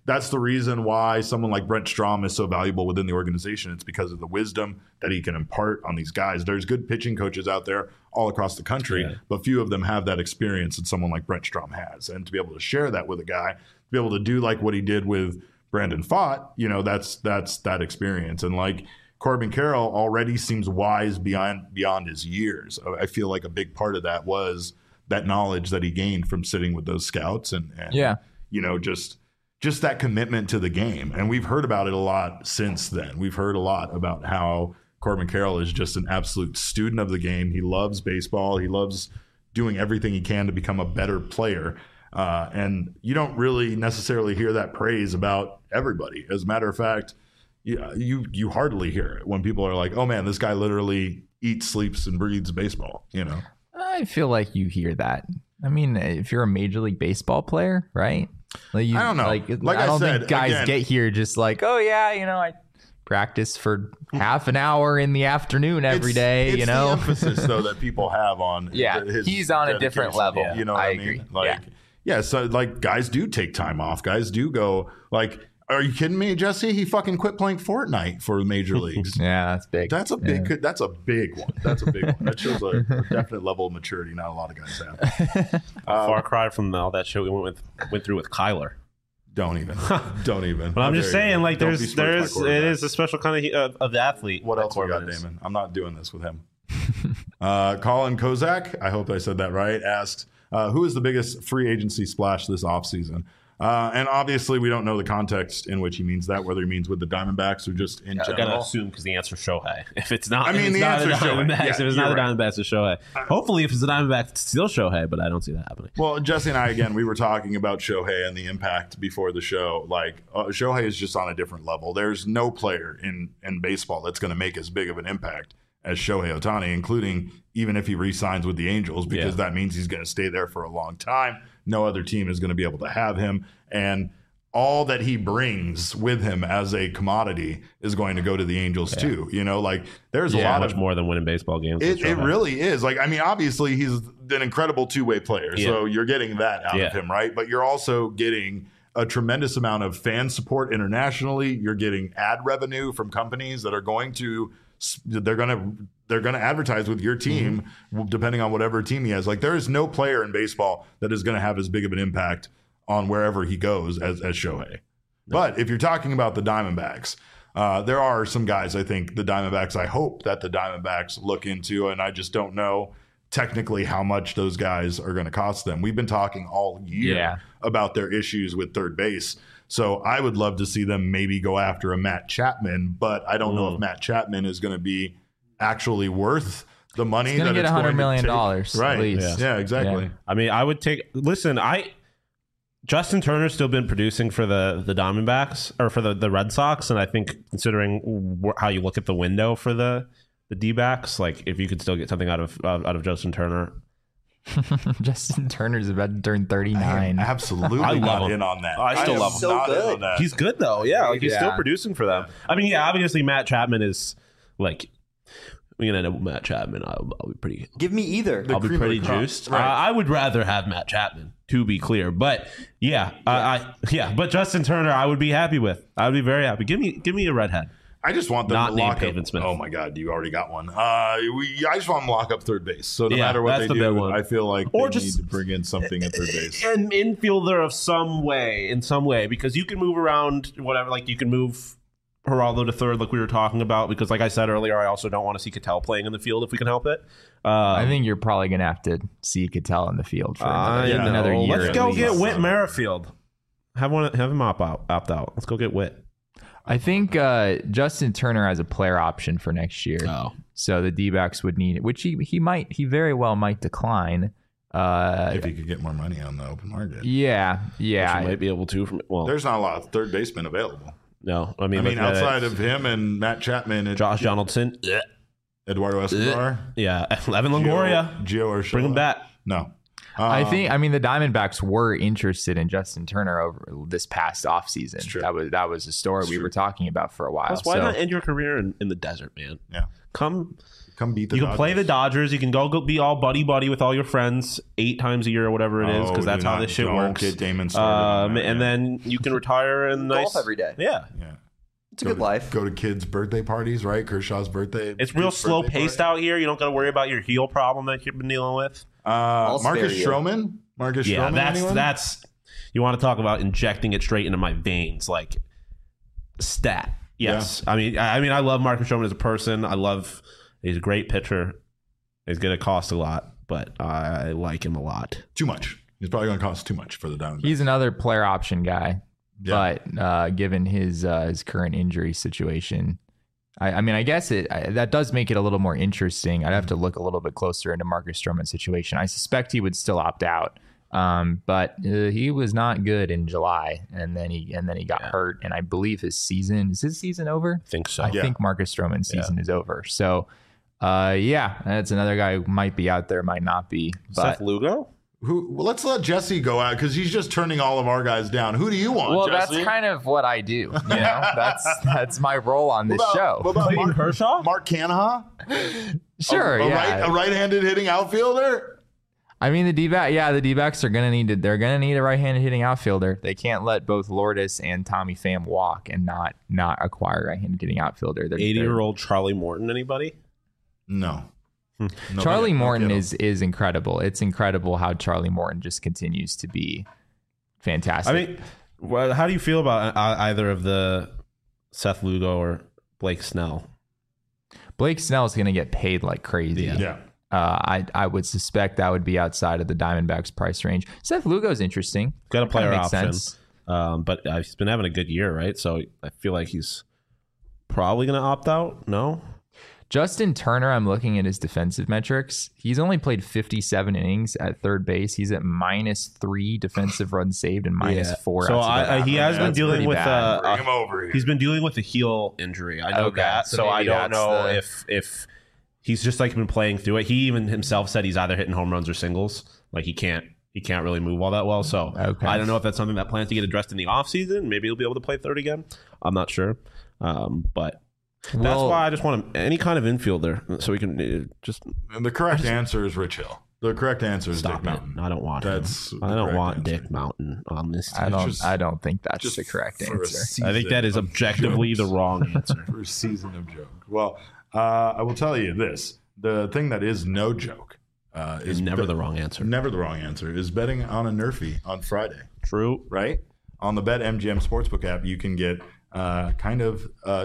that's the reason why someone like Brent Strom is so valuable within the organization. It's because of the wisdom that he can impart on these guys. There's good pitching coaches out there all across the country, yeah. but few of them have that experience that someone like Brent Strom has. And to be able to share that with a guy, to be able to do like what he did with Brandon Pfaadt, you know, that's that's that experience. And like Corbin Carroll already seems wise beyond beyond his years. I feel like a big part of that was that knowledge that he gained from sitting with those scouts and, and yeah. you know, just just that commitment to the game. And we've heard about it a lot since then. We've heard a lot about how Corbin Carroll is just an absolute student of the game. He loves baseball. He loves doing everything he can to become a better player. Uh, and you don't really necessarily hear that praise about everybody. As a matter of fact, you, you you hardly hear it when people are like, oh man, this guy literally eats, sleeps, and breathes baseball, you know? I feel like you hear that. I mean, if you're a Major League Baseball player, right? Like you, I don't know. Like, like I don't I said, think guys again, get here just like, oh yeah, you know, I practice for half an hour in the afternoon every it's, day. It's you know, the emphasis though that people have on. Yeah, his he's on a different level. You know, what I I mean? agree. Like, yeah. yeah, so like guys do take time off. Guys do go like. Are you kidding me, Jesse? He fucking quit playing Fortnite for the major leagues. Yeah, that's big. That's a big. Yeah. That's a big one. That's a big one. That shows a, a definite level of maturity. Not a lot of guys have. Um, Far cry from all that shit we went with went through with Kyler. Don't even. Don't even. But I'm just saying, you. like, Don't there's there's it is a special kind of of, of the athlete. What else we got, is. Damon? I'm not doing this with him. uh, Colin Kozak, I hope I said that right, asks, uh, who is the biggest free agency splash this offseason? Uh, and obviously, we don't know the context in which he means that, whether he means with the Diamondbacks or just in yeah, general. I gotta assume because the answer is Shohei. If it's not, I mean, if it's the not answer the is Shohei. Diamondbacks, Yeah, if it's not the right. Diamondbacks, it's Shohei. Hopefully, if it's the Diamondbacks, it's still Shohei. But I don't see that happening. Well, Jesse and I, again, we were talking about Shohei and the impact before the show. Like, uh, Shohei is just on a different level. There's no player in, in baseball that's going to make as big of an impact as Shohei Ohtani, including even if he re-signs with the Angels, because Yeah. that means he's going to stay there for a long time. No other team is going to be able to have him. And all that he brings with him as a commodity is going to go to the Angels yeah. too. You know, like there's yeah, a lot much of more than winning baseball games. It, it really is. Like, I mean, obviously he's an incredible two-way player, yeah. so you're getting that out yeah. of him, right? But you're also getting a tremendous amount of fan support internationally. You're getting ad revenue from companies that are going to they're going to they're going to advertise with your team mm-hmm. depending on whatever team he has. Like, there is no player in baseball that is going to have as big of an impact on wherever he goes as, as Shohei. No. But if you're talking about the Diamondbacks, uh, there are some guys I think the Diamondbacks, I hope that the Diamondbacks look into, and I just don't know technically how much those guys are going to cost them. We've been talking all year yeah. about their issues with third base. So I would love to see them maybe go after a Matt Chapman, but I don't mm. know if Matt Chapman is going to be actually worth the money He's that get it's one hundred going million to dollars take. Right. At least. Yeah, yeah exactly. Yeah. I mean, I would take listen, I Justin Turner's still been producing for the, the Diamondbacks or for the, the Red Sox. And I think considering wh- how you look at the window for the, the D-backs, like if you could still get something out of uh, out of Justin Turner. Justin Turner's about to turn thirty-nine. Absolutely I love not him. in on that. I still I love him. So good. He's good though. Yeah, like he's Yeah. still producing for them. I mean, yeah, obviously Matt Chapman is like we're gonna end up with Matt Chapman. I'll, I'll be pretty. Give me either. I'll be cream of pretty the crop. juiced. Right. Uh, I would rather have Matt Chapman, to be clear. But yeah, yeah. I, I yeah, but Justin Turner, I would be happy with. I would be very happy. Give me, give me a redhead. I just want them Not to named lock Pavin up. Smith. Oh my God, you already got one. Uh, we, I just want them to lock up third base. So no Yeah, matter what that's they the big do, one. I feel like Or they just- need to bring in something at third base. An infielder of some way, in some way, because you can move around, whatever. Like you can move Geraldo to third, like we were talking about. Because, like I said earlier, I also don't want to see Cattell playing in the field if we can help it. Um, I think you're probably going to have to see Cattell in the field for I another, know. another year. Let's at go least. get Whit Merrifield. Have one. Have him opt out. Opt out. Let's go get Whit. I think uh, Justin Turner has a player option for next year. Oh. So the D-backs would need it, which he, he might, he very well might decline. Uh, If he could get more money on the open market. yeah, yeah. Which you might be able to. From well, There's not a lot of third basemen available. no. I mean, I mean, looking at it, outside of him and Matt Chapman and Josh Donaldson, Eduardo Escobar, yeah, Evan Longoria, Gio Urshela. bring him back. No. I Um, think. I mean, the Diamondbacks were interested in Justin Turner over this past offseason. true. That was that was a story It's we true. were talking about for a while. Plus, why so, not end your career in, in the desert, man? Yeah. Come, Come beat the You can Dodgers. play the Dodgers. You can go, go be all buddy buddy with all your friends eight times a year or whatever it is, Oh, because that's do how not- this shit don't works. get Damon started on Um, that, and yeah. then you can retire in nice Golf every day. Yeah, Yeah. It's a Go good to- life. Go to kids' birthday parties, right? Kershaw's birthday. it's real kid's slow birthday paced party. out here. You don't got to worry about your heel problem that you've been dealing with. Uh, I'll Marcus spare you. Stroman? Marcus Yeah, Stroman? that's anyone? that's. You want to talk about injecting it straight into my veins, like stat. Yes, I mean, I I mean, I love Marcus Stroman as a person. I love. He's a great pitcher. He's going to cost a lot, but I like him a lot. Too much. He's probably going to cost too much for the Diamondbacks. He's another player option guy, Yeah. but uh, given his uh, his current injury situation, I, I mean, I guess it I, that does make it a little more interesting. I'd have to look a little bit closer into Marcus Stroman's situation. I suspect he would still opt out, um, but uh, he was not good in July, and then he and then he got Yeah. hurt, and I believe his season is his season over. I think so. I Yeah. think Marcus Stroman's season is over. So, uh, yeah, that's another guy who might be out there, might not be. But Seth Lugo? Who? Well, let's let Jesse go out because he's just turning all of our guys down. Who do you want, well, Jesse? that's kind of what I do. You know, that's that's my role on this What about- show. What about Clayton Mark, Kershaw? Mark Canha? Sure, a, a yeah. right, a right-handed hitting outfielder? I mean, the D-back, yeah, the D-backs are gonna need to. They're gonna need a right-handed hitting outfielder. They can't let both Lourdes and Tommy Pham walk and not not acquire a right-handed hitting outfielder. They're- they're- eighty-year-old Charlie Morton, anybody? No. No, Charlie no, Morton no. is is incredible. It's incredible how Charlie Morton just continues to be fantastic. I mean, well, how do you feel about uh, either of the Seth Lugo or Blake Snell? Blake Snell is gonna get paid like crazy. Yeah. Yeah. Uh, I I would suspect that would be outside of the Diamondbacks price range. Seth Lugo's interesting. Got a Kinda player makes option, sense. um, but uh, he's been having a good year, right? So I feel like he's probably going to opt out. No, Justin Turner, I'm looking at his defensive metrics. He's only played fifty-seven innings at third base. He's at minus three defensive runs saved and minus Yeah. four. So outside I, I, of he that. has been That's dealing pretty with bad. uh, Bring uh, him over here. he's been dealing with a heel injury. I know Okay, that, so so I maybe don't that's know the- if if he's just like been playing through it. He even himself said he's either hitting home runs or singles. Like he can't he can't really move all that well. So Okay. I don't know if that's something that plans to get addressed in the offseason. Maybe he'll be able to play third again. I'm not sure, um, but. That's Well- why I just want him, any kind of infielder so we can uh, just And the correct answer is Rich Hill. The correct answer is stop Dick it. Mountain. I don't want That's him. the I don't correct want answer. Dick Mountain on this team. I don't. just- I don't think that's Just the correct for a answer. I think that is season of objectively the jokes. wrong answer. For a season of joke. Well, uh, I will tell you this: the thing that is no joke uh, Is is never bet- the wrong answer. Never the wrong answer is betting on a Nerfy on Friday. True. Right on the BetMGM Sportsbook app, you can get uh, kind of uh,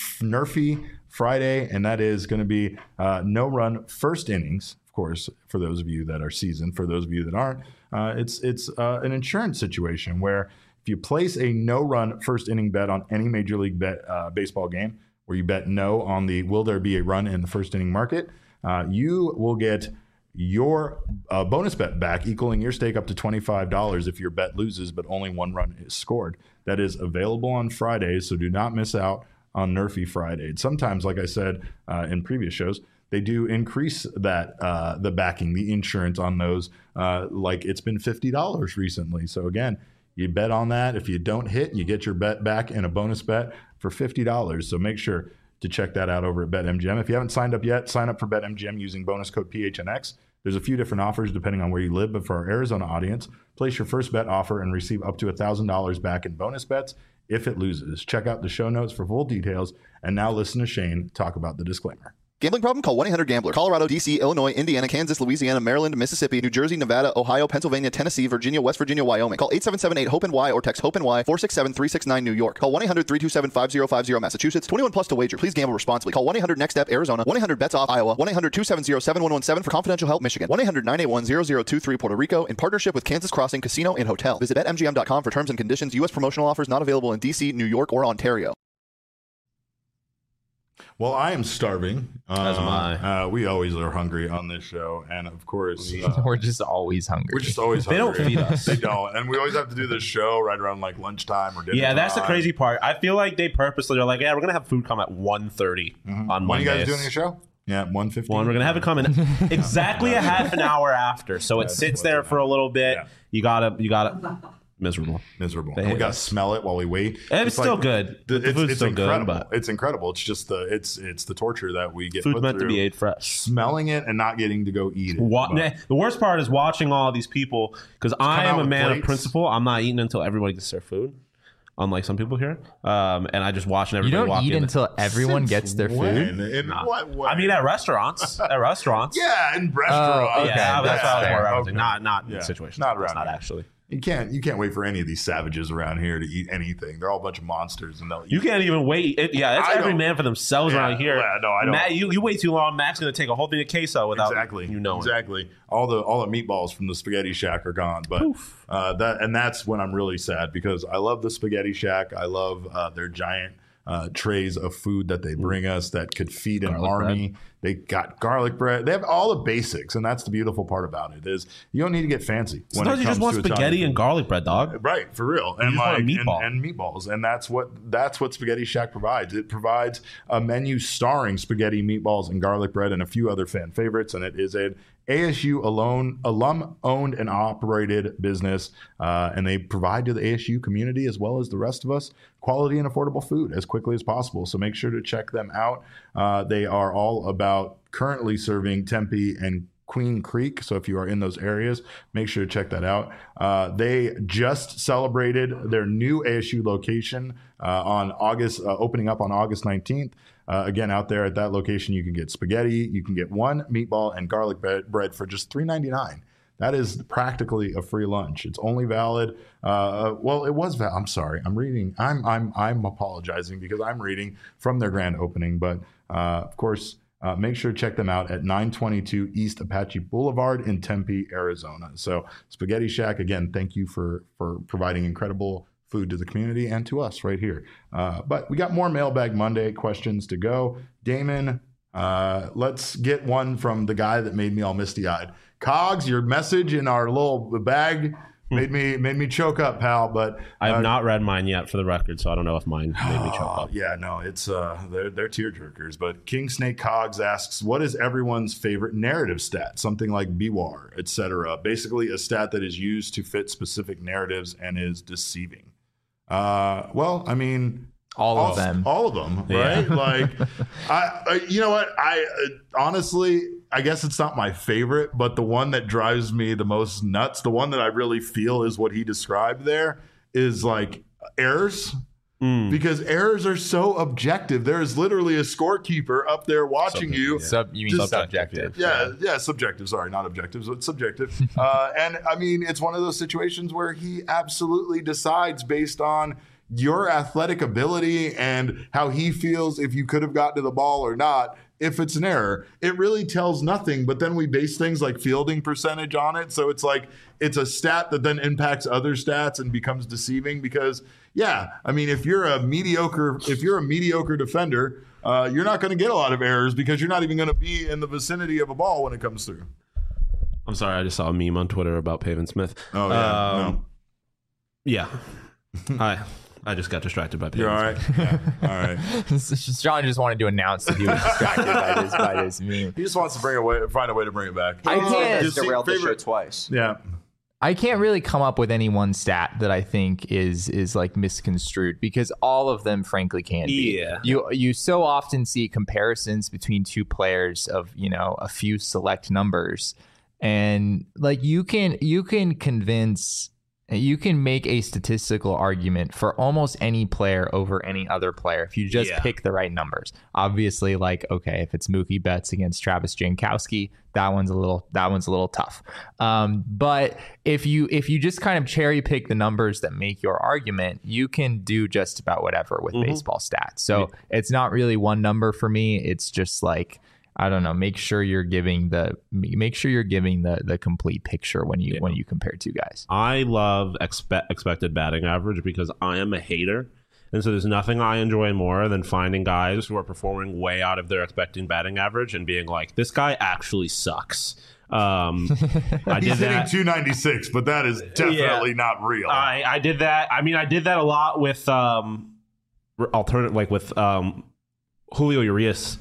Nerfy Friday, and that is going to be uh, no run first innings. Of course, for those of you that are seasoned, for those of you that aren't, uh, it's it's uh, an insurance situation where if you place a no run first inning bet on any Major League bet, uh, baseball game, where you bet no on the will there be a run in the first inning market, uh, you will get your uh, bonus bet back, equaling your stake up to twenty-five dollars if your bet loses, but only one run is scored. That is available on Fridays, so do not miss out on Nerfy Friday. Sometimes, like I said uh, in previous shows, they do increase that uh, the backing, the insurance on those. Uh, like it's been fifty dollars recently. So again, you bet on that. If you don't hit, you get your bet back in a bonus bet for fifty dollars. So make sure to check that out over at BetMGM. If you haven't signed up yet, sign up for BetMGM using bonus code P H N X. There's a few different offers depending on where you live, but for our Arizona audience, place your first bet offer and receive up to one thousand dollars back in bonus bets if it loses. Check out the show notes for full details. And now listen to Shane talk about the disclaimer. Gambling problem? Call one eight hundred gambler. Colorado, D C, Illinois, Indiana, Kansas, Louisiana, Maryland, Mississippi, New Jersey, Nevada, Ohio, Pennsylvania, Tennessee, Virginia, West Virginia, Wyoming. Call eight seven seven eight hope N Y or text HOPE-NY four six seven three six nine New York. Call one eight hundred three two seven five zero five zero Massachusetts. twenty-one plus to wager. Please gamble responsibly. Call one eight hundred next step Arizona. one eight hundred bets off Iowa. one eight hundred two seven zero seven one one seven for confidential help Michigan. one eight hundred nine eight one zero zero two three Puerto Rico in partnership with Kansas Crossing Casino and Hotel. Visit bet M G M dot com for terms and conditions. U S promotional offers not available in D C, New York, or Ontario. Well, I am starving. As am Uh, I. Uh, we always are hungry on this show. And of course, uh, We're just always hungry. we're just always They don't hungry. feed us. They don't. And we always have to do this show right around like lunchtime or dinner. Yeah, that's the time. crazy part. I feel like they purposely are like, yeah, we're gonna have food come at one thirty on When are Mondays. you guys doing your show? Yeah, one fifteen. One, we're gonna have it come in exactly a half an hour after, so it That's sits what's there gonna for a little bit. Yeah. You gotta, you gotta. miserable. Miserable. They And we hate got to us. smell it while we wait. And it's still good. The, The it's food's it's still good, incredible. but- It's incredible. It's just the it's it's the torture that we get Food put meant to through, be ate fresh. smelling it and not getting to go eat it. Wa- But- nah, the worst part is watching all these people because I out am a with man plates. of principle. I'm not eating until everybody gets their food, unlike some people here. Um, and I just watching You everybody don't walk eat in. until everyone Since gets their when? food. In Nah. what way? I mean, at restaurants, at restaurants. yeah, in restaurants. Oh, okay. yeah, that's that's how I was fair. more referencing. Okay. Not not Yeah. in situations. Not Not around not here. actually. You can't you can't wait for any of these savages around here to eat anything. They're all a bunch of monsters, and they'll eat. You can't even wait. It, yeah, it's I every don't- man for themselves Yeah, around here. yeah, no, I don't. Matt, you, you wait too long. Matt's going to take a whole thing of queso without exactly you know it. exactly all the all the meatballs from the Spaghetti Shack are gone. But uh, that and that's when I'm really sad because I love the Spaghetti Shack. I love uh, their giant uh, trays of food that they bring us that could feed an Garlic army. They got garlic bread. They have all the basics, and that's the beautiful part about it is you don't need to get fancy. when Sometimes it you just comes want to Italian spaghetti food. and garlic bread, dog. Right, for real, and just want a like meatball. And, and meatballs, and that's what that's what Spaghetti Shack provides. It provides a menu starring spaghetti, meatballs, and garlic bread, and a few other fan favorites. And it is an A S U alone, alum-owned and operated business, uh, and they provide to the A S U community as well as the rest of us quality and affordable food as quickly as possible. So make sure to check them out. Uh, they are all about currently serving Tempe and Queen Creek. So if you are in those areas, make sure to check that out. Uh, they just celebrated their new A S U location uh, on August, uh, opening up on August nineteenth. Uh, again, out there at that location, you can get spaghetti, you can get one meatball and garlic bread, bread for just three ninety-nine. That is practically a free lunch. It's only valid. Uh, well, it was. Val- I'm sorry. I'm reading. I'm. I'm. I'm apologizing because I'm reading from their grand opening. But uh, of course, uh, make sure to check them out at nine twenty-two East Apache Boulevard in Tempe, Arizona. So, Spaghetti Shack. Again, thank you for for providing incredible food to the community and to us right here. Uh, but we got more Mailbag Monday questions to go. Damon, uh, let's get one from the guy that made me all misty-eyed. Cogs, your message in our little bag made me made me choke up, pal. But I have uh, not read mine yet for the record, so I don't know if mine made me choke oh, up. yeah, no, it's uh, they're they're tear jerkers. But King Snake Cogs asks, what is everyone's favorite narrative stat? Something like B W A R, et cetera. Basically, a stat that is used to fit specific narratives and is deceiving. Uh, well, I mean. All of them. All of them, right? Yeah. Like, I, I, you know what? I uh, honestly, I guess it's not my favorite, but the one that drives me the most nuts, the one that I really feel is what he described there, is like errors. Mm. Because errors are so objective. There is literally a scorekeeper up there watching Subjective, you. yeah. Sub, you mean Just- subjective? Yeah, yeah, subjective. Sorry, not objective. So it's subjective. uh, and I mean, it's one of those situations where he absolutely decides based on your athletic ability and how he feels if you could have gotten to the ball or not. If it's an error, it really tells nothing. But then we base things like fielding percentage on it. So it's like it's a stat that then impacts other stats and becomes deceiving because, yeah, I mean, if you're a mediocre, if you're a mediocre defender, uh, you're not going to get a lot of errors because you're not even going to be in the vicinity of a ball when it comes through. I'm sorry, I just saw a meme on Twitter about Pavin Smith. Oh, yeah. Um, no. Yeah. I I just got distracted by Pavin You're all Smith. right. Yeah. All right. John just wanted to announce that he was distracted by this by this meme. He just wants to bring a way, find a way to bring it back. I can't- Just see- derailed the show favorite- twice. Yeah. I can't really come up with any one stat that I think is is like misconstrued because all of them frankly can be. Yeah. You you so often see comparisons between two players of, you know, a few select numbers, and like you can you can convince you can make a statistical argument for almost any player over any other player if you just Yeah. pick the right numbers. Obviously, like, okay, if it's Mookie Betts against Travis Jankowski, that one's a little that one's a little tough. Um, but if you if you just kind of cherry pick the numbers that make your argument, you can do just about whatever with baseball stats. So it's not really one number for me. It's just like, I don't know. Make sure you're giving the make sure you're giving the the complete picture when you Yeah. when you compare two guys. I love expe- expected batting average because I am a hater. And so there's nothing I enjoy more than finding guys who are performing way out of their expecting batting average and being like, this guy actually sucks. Um, I did He's hitting that. two ninety-six, but that is definitely not real. I, I did that. I mean, I did that a lot with um, alternative, like with um, Julio Urias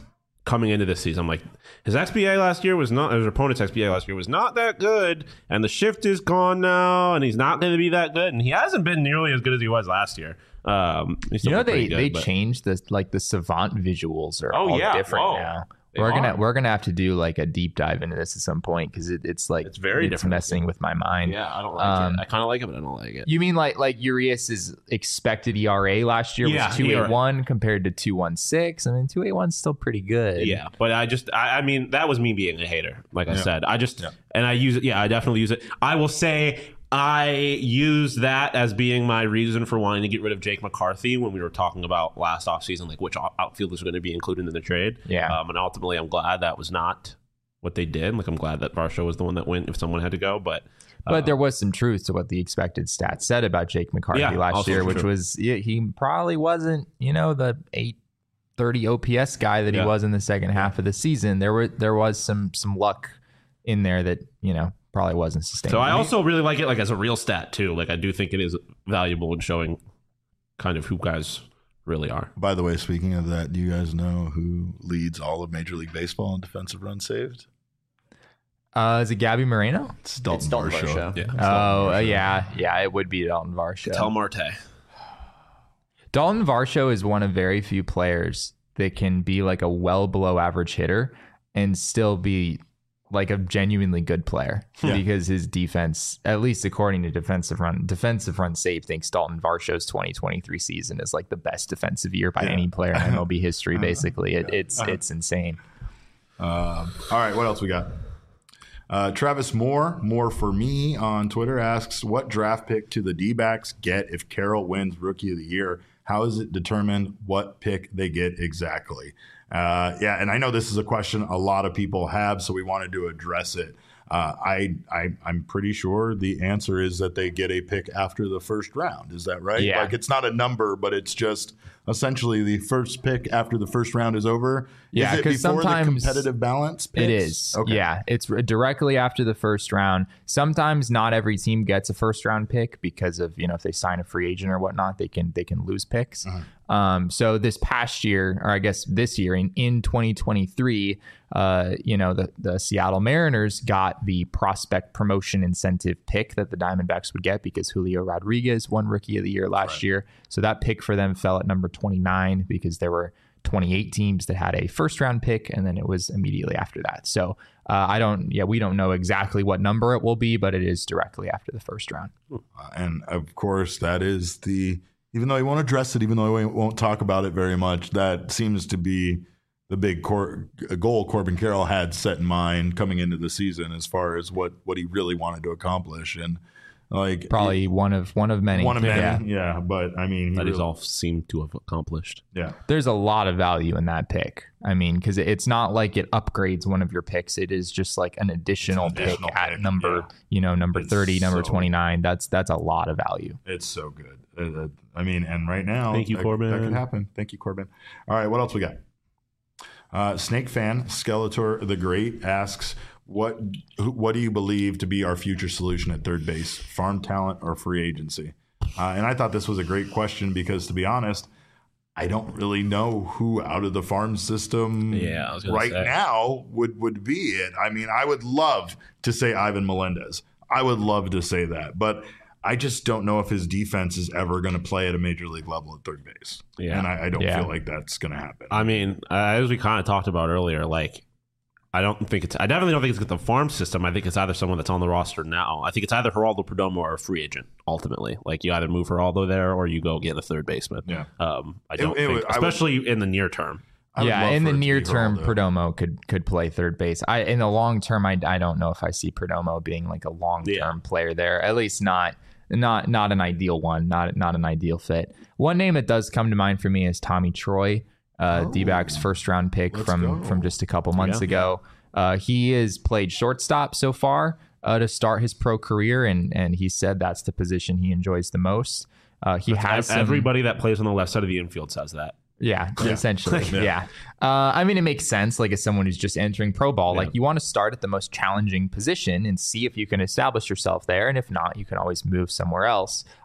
coming into this season. I'm like, his X B A last year was not, his opponent's X B A last year was not that good, and the shift is gone now, and he's not going to be that good, and he hasn't been nearly as good as he was last year. Um, you know, they good, they but... changed the like the Savant visuals are oh, all yeah. different Whoa. now. They we're are. gonna we're gonna have to do like a deep dive into this at some point because it, it's like it's very it's different. messing with my mind. Yeah, I don't like um, it. I kind of like it, but I don't like it. You mean like like Urias's expected E R A last year Yeah, was two eight one compared to two one six? I mean, two eight one is still pretty good. Yeah, but I just, I, I mean, that was me being a hater. Like I Yeah. said, I just, Yeah. and I use it. Yeah, I definitely use it. I will say I use that as being my reason for wanting to get rid of Jake McCarthy when we were talking about last offseason, like which outfielders are going to be included in the trade. Yeah. Um, and ultimately, I'm glad that was not what they did. Like, I'm glad that Varsho was the one that went if someone had to go. But uh, But there was some truth to what the expected stats said about Jake McCarthy Yeah, last also year, true. which was yeah, he probably wasn't, you know, the eight thirty O P S guy that Yeah. he was in the second half of the season. There were there was some some luck in there that, you know, probably wasn't sustainable. So I also really like it like as a real stat too. Like I do think it is valuable in showing kind of who guys really are. By the way, speaking of that, do you guys know who leads all of Major League Baseball in defensive runs saved? uh, is it Gabby Moreno? It's Dalton, It's Dalton Varsho. Varsho. Yeah. Oh, uh, yeah, yeah, it would be Dalton Varsho. Tell Marte. Dalton Varsho is one of very few players that can be like a well below average hitter and still be like a genuinely good player Yeah. because his defense, at least according to defensive run, defensive run save, thinks Dalton Varsho's twenty twenty-three season is like the best defensive year by Yeah. any player in M L B history. Basically, it, it's Uh-huh. it's insane. Um, all right, what else we got? Uh, Travis Moore, more for me on Twitter, asks, what draft pick do the D-backs get if Carroll wins Rookie of the Year? How is it determined what pick they get exactly? Uh, yeah, and I know this is a question a lot of people have, so we wanted to address it. Uh, I, I, I'm pretty sure the answer is that they get a pick after the first round. Is that right? Yeah. Like it's not a number, but it's just essentially the first pick after the first round is over. Yeah, is it 'cause before the sometimes competitive balance picks? It is. Okay. Yeah, it's r- directly after the first round. Sometimes not every team gets a first round pick because of, you know, if they sign a free agent or whatnot, they can they can lose picks. Um, so this past year, or I guess this year in, in twenty twenty-three, uh, you know, the, the Seattle Mariners got the prospect promotion incentive pick that the Diamondbacks would get because Julio Rodriguez won Rookie of the Year last Right. year. So that pick for them fell at number twenty-nine because there were twenty-eight teams that had a first round pick, and then it was immediately after that. So uh, I don't, yeah, we don't know exactly what number it will be, but it is directly after the first round. Uh, and of course, that is the, even though he won't address it, even though he won't talk about it very much, that seems to be the big cor- goal Corbin Carroll had set in mind coming into the season as far as what, what he really wanted to accomplish. And like Probably one of one of many. one of many, Yeah. yeah. But I mean, he That is really- all seem to have accomplished. yeah. There's a lot of value in that pick. I mean, because it's not like it upgrades one of your picks. It is just like an additional, It's an additional pick at pick, number, yeah. you know, number It's thirty, number so- twenty-nine. That's that's a lot of value. It's so good. Uh, uh, I mean, and right now, Thank you, that, Corbin. That could happen. Thank you, Corbin. All right, what else we got? Uh, Snake fan Skeletor the Great asks, "What who, what do you believe to be our future solution at third base? Farm talent or free agency?" Uh, and I thought this was a great question because, to be honest, I don't really know who out of the farm system Yeah, I was gonna right say. now would would be it. I mean, I would love to say Ivan Melendez. I would love to say that, but I just don't know if his defense is ever going to play at a major league level at third base. Yeah. And I, I don't Yeah. feel like that's going to happen. I mean, uh, as we kind of talked about earlier, like I don't think it's. I definitely don't think it's the farm system. I think it's either someone that's on the roster now. I think it's either Geraldo Perdomo or a free agent. Ultimately, like you either move Geraldo there or you go get a third baseman. Yeah. Um, I don't it think, would- I would- especially in the near term. I would Yeah, love in for the it to be near term, Geraldo. Perdomo could could play third base. I in the long term, I, I don't know if I see Perdomo being like a long term Yeah. player there. At least not not not an ideal one. Not not an ideal fit. One name that does come to mind for me is Tommy Troy, uh, Oh. D-backs first round pick Let's from go. from just a couple months Yeah. ago. Uh, he has played shortstop so far uh, to start his pro career, and and he said that's the position he enjoys the most. Uh, he has some, Everybody that plays on the left side of the infield says that. yeah, essentially. Yeah. yeah. Uh, I mean, it makes sense. Like, as someone who's just entering pro ball, Yeah. like, you want to start at the most challenging position and see if you can establish yourself there. And if not, you can always move somewhere else.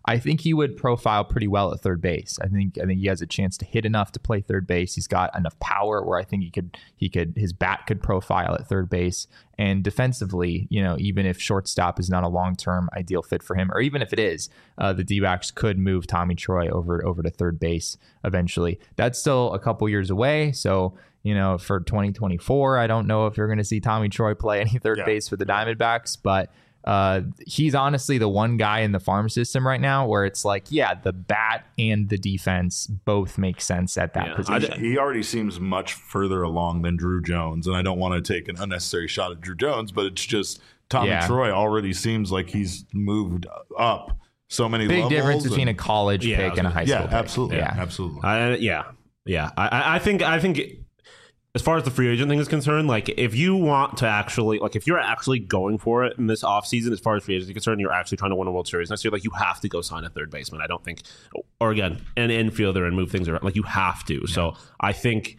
I think he would profile pretty well at third base. I think I think he has a chance to hit enough to play third base. He's got enough power where I think he could he could his bat could profile at third base. And defensively, you know, even if shortstop is not a long-term ideal fit for him, or even if it is, uh, the D-backs could move Tommy Troy over over to third base eventually. That's still a couple years away, so you know, for twenty twenty-four, I don't know if you're going to see Tommy Troy play any third yeah. base for the Diamondbacks, but uh, he's honestly the one guy in the farm system right now where it's like, yeah, the bat and the defense both make sense at that Yeah, position. I, he already seems much further along than Drew Jones, and I don't want to take an unnecessary shot at Drew Jones, but it's just Tommy Yeah. Troy already seems like he's moved up so many Big levels. difference between a and, college Yeah, pick and a high school yeah, pick. absolutely, Yeah. absolutely. I, yeah, yeah. I- I, I think I think as far as the free agent thing is concerned, like if you want to actually, like if you're actually going for it in this offseason, as far as free agency is concerned, you're actually trying to win a World Series next year, like you have to go sign a third baseman. I don't think, or again, an infielder and move things around. Like you have to. Yeah. So I think,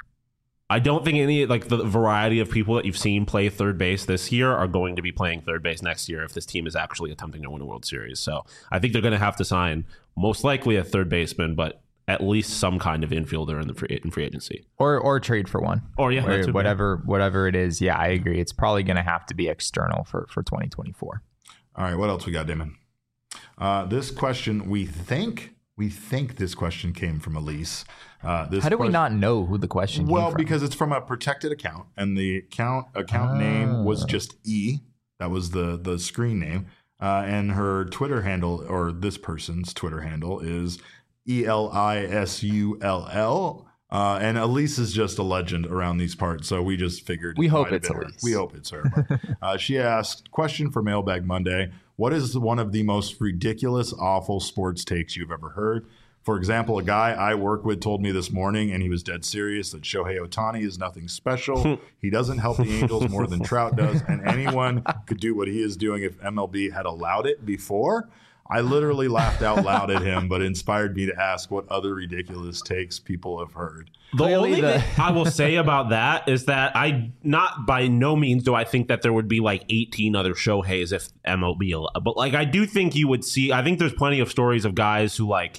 I don't think any, like the variety of people that you've seen play third base this year are going to be playing third base next year if this team is actually attempting to win a World Series. So I think they're going to have to sign most likely a third baseman, but at least some kind of infielder in the free, in free agency, Or or trade for one. or yeah, Or that's whatever whatever it is. Yeah, I agree. It's probably going to have to be external for, for twenty twenty-four. All right, what else we got, Damon? Uh, this question, we think we think this question came from Elise. Uh, this How do we question- not know who the question Well, came from? because it's from a protected account, and the account account Oh. name was just E. That was the the screen name, uh, and her Twitter handle, or this person's Twitter handle, is E L I S U L L. Uh, and Elise is just a legend around these parts, so we just figured. We it hope might have it's been her. Elise. We hope it's her. But, uh, she asked, question for Mailbag Monday: what is one of the most ridiculous, awful sports takes you've ever heard? For example, a guy I work with told me this morning, and he was dead serious, that Shohei Ohtani is nothing special. He doesn't help the Angels more than Trout does, and anyone could do what he is doing if M L B had allowed it before. I literally laughed out loud at him, but inspired me to ask what other ridiculous takes people have heard. The Clearly only the- thing I will say about that is that I not by no means do I think that there would be like eighteen other Shoheis if M L B allowed, but like I do think you would see. I think there's plenty of stories of guys who like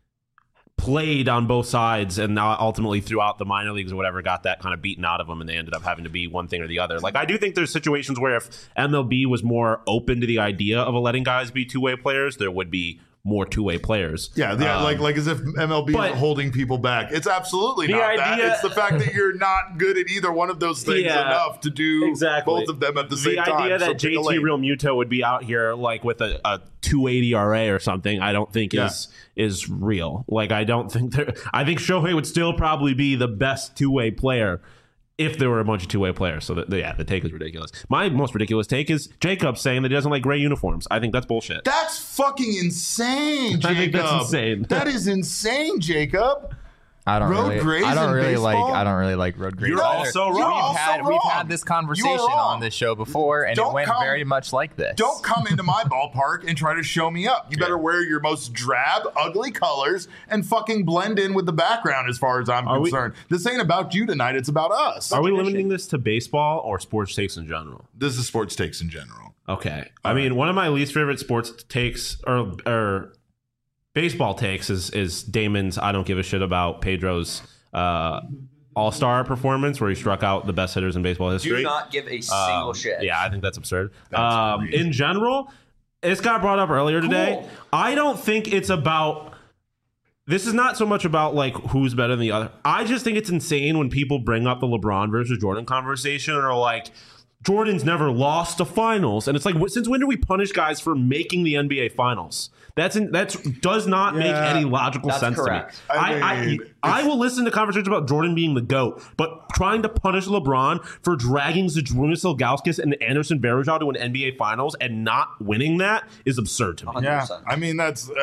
played on both sides and now ultimately throughout the minor leagues or whatever got that kind of beaten out of them and they ended up having to be one thing or the other. Like I do think there's situations where if M L B was more open to the idea of letting guys be two-way players, there would be more two-way players. Yeah, yeah Um, like like as if M L B but- is holding people back. It's absolutely The not that. idea- It's the fact that you're not good at either one of those things Yeah, enough to do exactly. both of them at the same the time. idea So that pick J a T lane. Real Muto would be out here like with a, a two eighty R A or something, I don't think Yeah. is is real. Like I don't think there. I think Shohei would still probably be the best two way player if there were a bunch of two way players. So that, yeah, the take is ridiculous. My most ridiculous take is Jacob saying that he doesn't like gray uniforms. I think that's bullshit. That's fucking insane, Jacob. I think that's insane. That is insane, Jacob. I don't Road really. grays I don't in really baseball? like. I don't really like road grays. You're either. also wrong. We've You're also had we've wrong. had this You conversation are wrong. on this show before, and Don't it went come- very much like this. Don't come into my ballpark and try to show me up. You better wear your most drab, ugly colors and fucking blend in with the background as far as I'm Are we- concerned. This ain't about you tonight. It's about us. Are we limiting this to baseball or sports takes in general? This is sports takes in general. Okay. I mean, one of my least favorite sports takes or or baseball takes is is Damon's I don't give a shit about Pedro's uh, All-Star performance where he struck out the best hitters in baseball history. Do not give a single Um, shit. Yeah, I think that's absurd. That's um, crazy. in general, this got brought up earlier today. Cool. I don't think it's about. This is not so much about like who's better than the other. I just think it's insane when people bring up the LeBron versus Jordan conversation and are like, Jordan's never lost a finals, and it's like, wh- since when do we punish guys for making the N B A finals? That's in, that's does not make Yeah, any logical that's sense correct. to me. I I, I, mean, I will listen to conversations about Jordan being the GOAT, but trying to punish LeBron for dragging Zydrunas Ilgauskas and Anderson Varejao to an N B A finals and not winning that is absurd to me. one hundred Yeah, percent. I mean that's uh,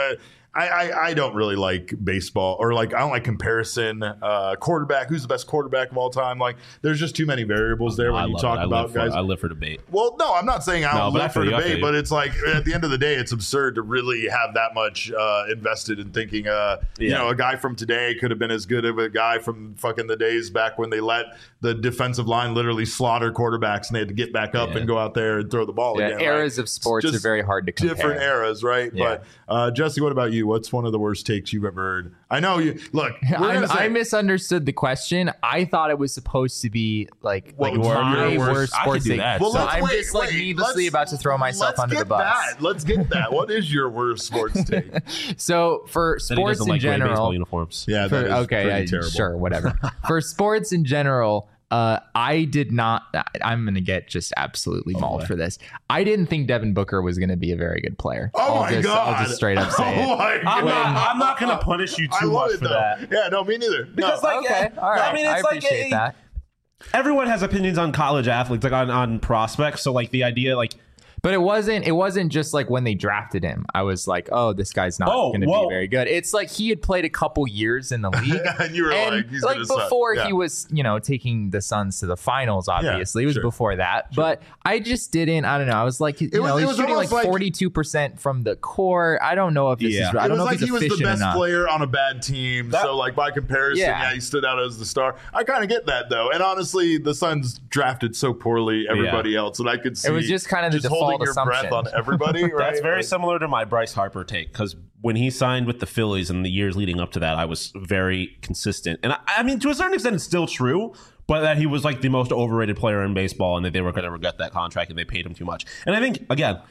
I, I, I don't really like baseball or like I don't like comparison. Uh, quarterback, who's the best quarterback of all time? Like, there's just too many variables there when I you love talk it. I about live for, guys. I live for debate. Well, no, I'm not saying I No, don't but I live for feel you, I feel debate, you. but it's like at the end of the day, it's absurd to really have that much uh, invested in thinking, uh, you Yeah. know, a guy from today could have been as good of a guy from fucking the days back when they let the defensive line literally slaughter quarterbacks and they had to get back up Yeah. and go out there and throw the ball Yeah, again. eras right? of sports Just are very hard to compare. Different eras, right? Yeah. But uh, Jesse, what about you? What's one of the worst takes you've ever heard? I know you. Look, we're I, gonna say, I misunderstood the question. I thought it was supposed to be like, What like was my your worst- worst I could sports do take. that. Well, so let's I'm wait, just like wait, needlessly let's- about to throw myself let's under the get bus. That. Let's get that. What is your worst sports take? So for That he sports doesn't in like wearing baseball general, uniforms. Yeah, for, that is okay, pretty I, terrible. sure, whatever. For sports in general, uh, I did not. I'm going to get just absolutely mauled boy. for this. I didn't think Devin Booker was going to be a very good player. Oh I'll my just, god! I'll just straight up say oh it. My I'm god. not, I'm not going to punish you I too love much it for though. that. Yeah, no, me neither. Because, no. like, Okay, yeah, all right. I mean, I it's like appreciate a- that. Everyone has opinions on college athletes, like on, on prospects. So, like, the idea, like, But it wasn't. It wasn't just like when they drafted him. I was like, "Oh, this guy's not Oh, going to be whoa. very good." It's like he had played a couple years in the league, And you were and like, he's like gonna suck. before Yeah. he was, you know, taking the Suns to the finals. Obviously, it was sure. before that. But I just didn't. I don't know. I was like, you was- know, it he's was shooting almost like like- forty-two percent from the core. I don't know if this Yeah. is. I It don't was know like if he's he was the efficient best enough. player on a bad team. That- so, like, by comparison, Yeah. yeah. he stood out as the star. I kind of get that, though. And honestly, the Suns drafted so poorly everybody else that I could see was just kind of the just holding default your breath assumption. on everybody, right? that's very Like, similar to my Bryce Harper take. Because when he signed with the Phillies in the years leading up to that, I was very consistent. And I, I mean, to a certain extent, it's still true. But that he was like the most overrated player in baseball and that they were going to regret that contract and they paid him too much. And I think, again,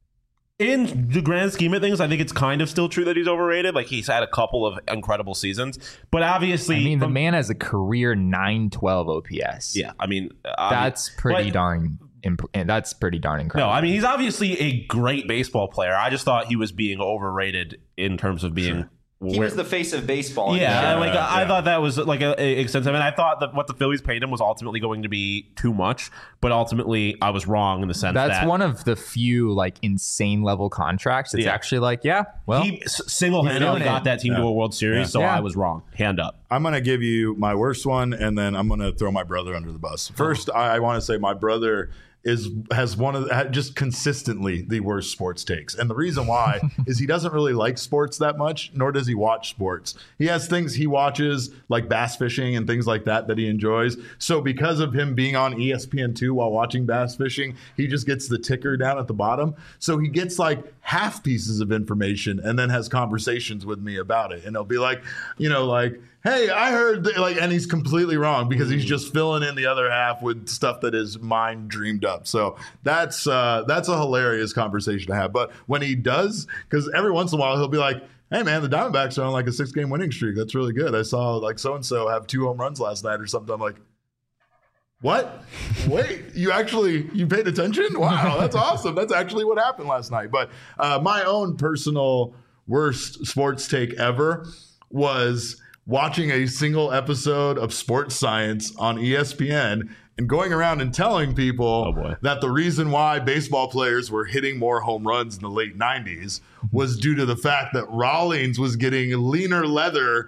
in the grand scheme of things, I think it's kind of still true that he's overrated. Like, he's had a couple of incredible seasons. But obviously... I mean, the from- man has a career nine twelve O P S. Yeah, I mean... I that's mean, pretty but- darn. Imp- that's pretty darn No, incredible. I mean, he's obviously a great baseball player. I just thought he was being overrated in terms of being... He where- was the face of baseball. Yeah, Yeah, like I yeah. thought that was like a, a extensive, and I thought that what the Phillies paid him was ultimately going to be too much. But ultimately, I was wrong in the sense That's that one of the few like insane level contracts. It's Yeah. actually like, yeah, well, he s- single-handedly He's doing got it. that team to Yeah. a World Series. Yeah. So Yeah. I was wrong. Hand up. I'm going to give you my worst one, and then I'm going to throw my brother under the bus. First, I, I want to say my brother is has one of the, ha- just consistently the worst sports takes, and the reason why is he doesn't really like sports that much, nor does he watch sports. He has things he watches like bass fishing and things like that that he enjoys. So because of him being on E S P N two while watching bass fishing, he just gets the ticker down at the bottom. So he gets like half pieces of information and then has conversations with me about it, and he'll be like, you know, like, hey, I heard that, like, and he's completely wrong because he's just filling in the other half with stuff that is mind dreamed up. So that's uh, that's a hilarious conversation to have. But when he does, because every once in a while he'll be like, hey man, the Diamondbacks are on like a six game winning streak. That's really good. I saw like so and so have two home runs last night or something. I'm like, what? Wait, you actually you paid attention? Wow, that's awesome. That's actually what happened last night. But uh, my own personal worst sports take ever was watching a single episode of Sports Science on E S P N and going around and telling people Oh, boy. that the reason why baseball players were hitting more home runs in the late nineties was due to the fact that Rawlings was getting leaner leather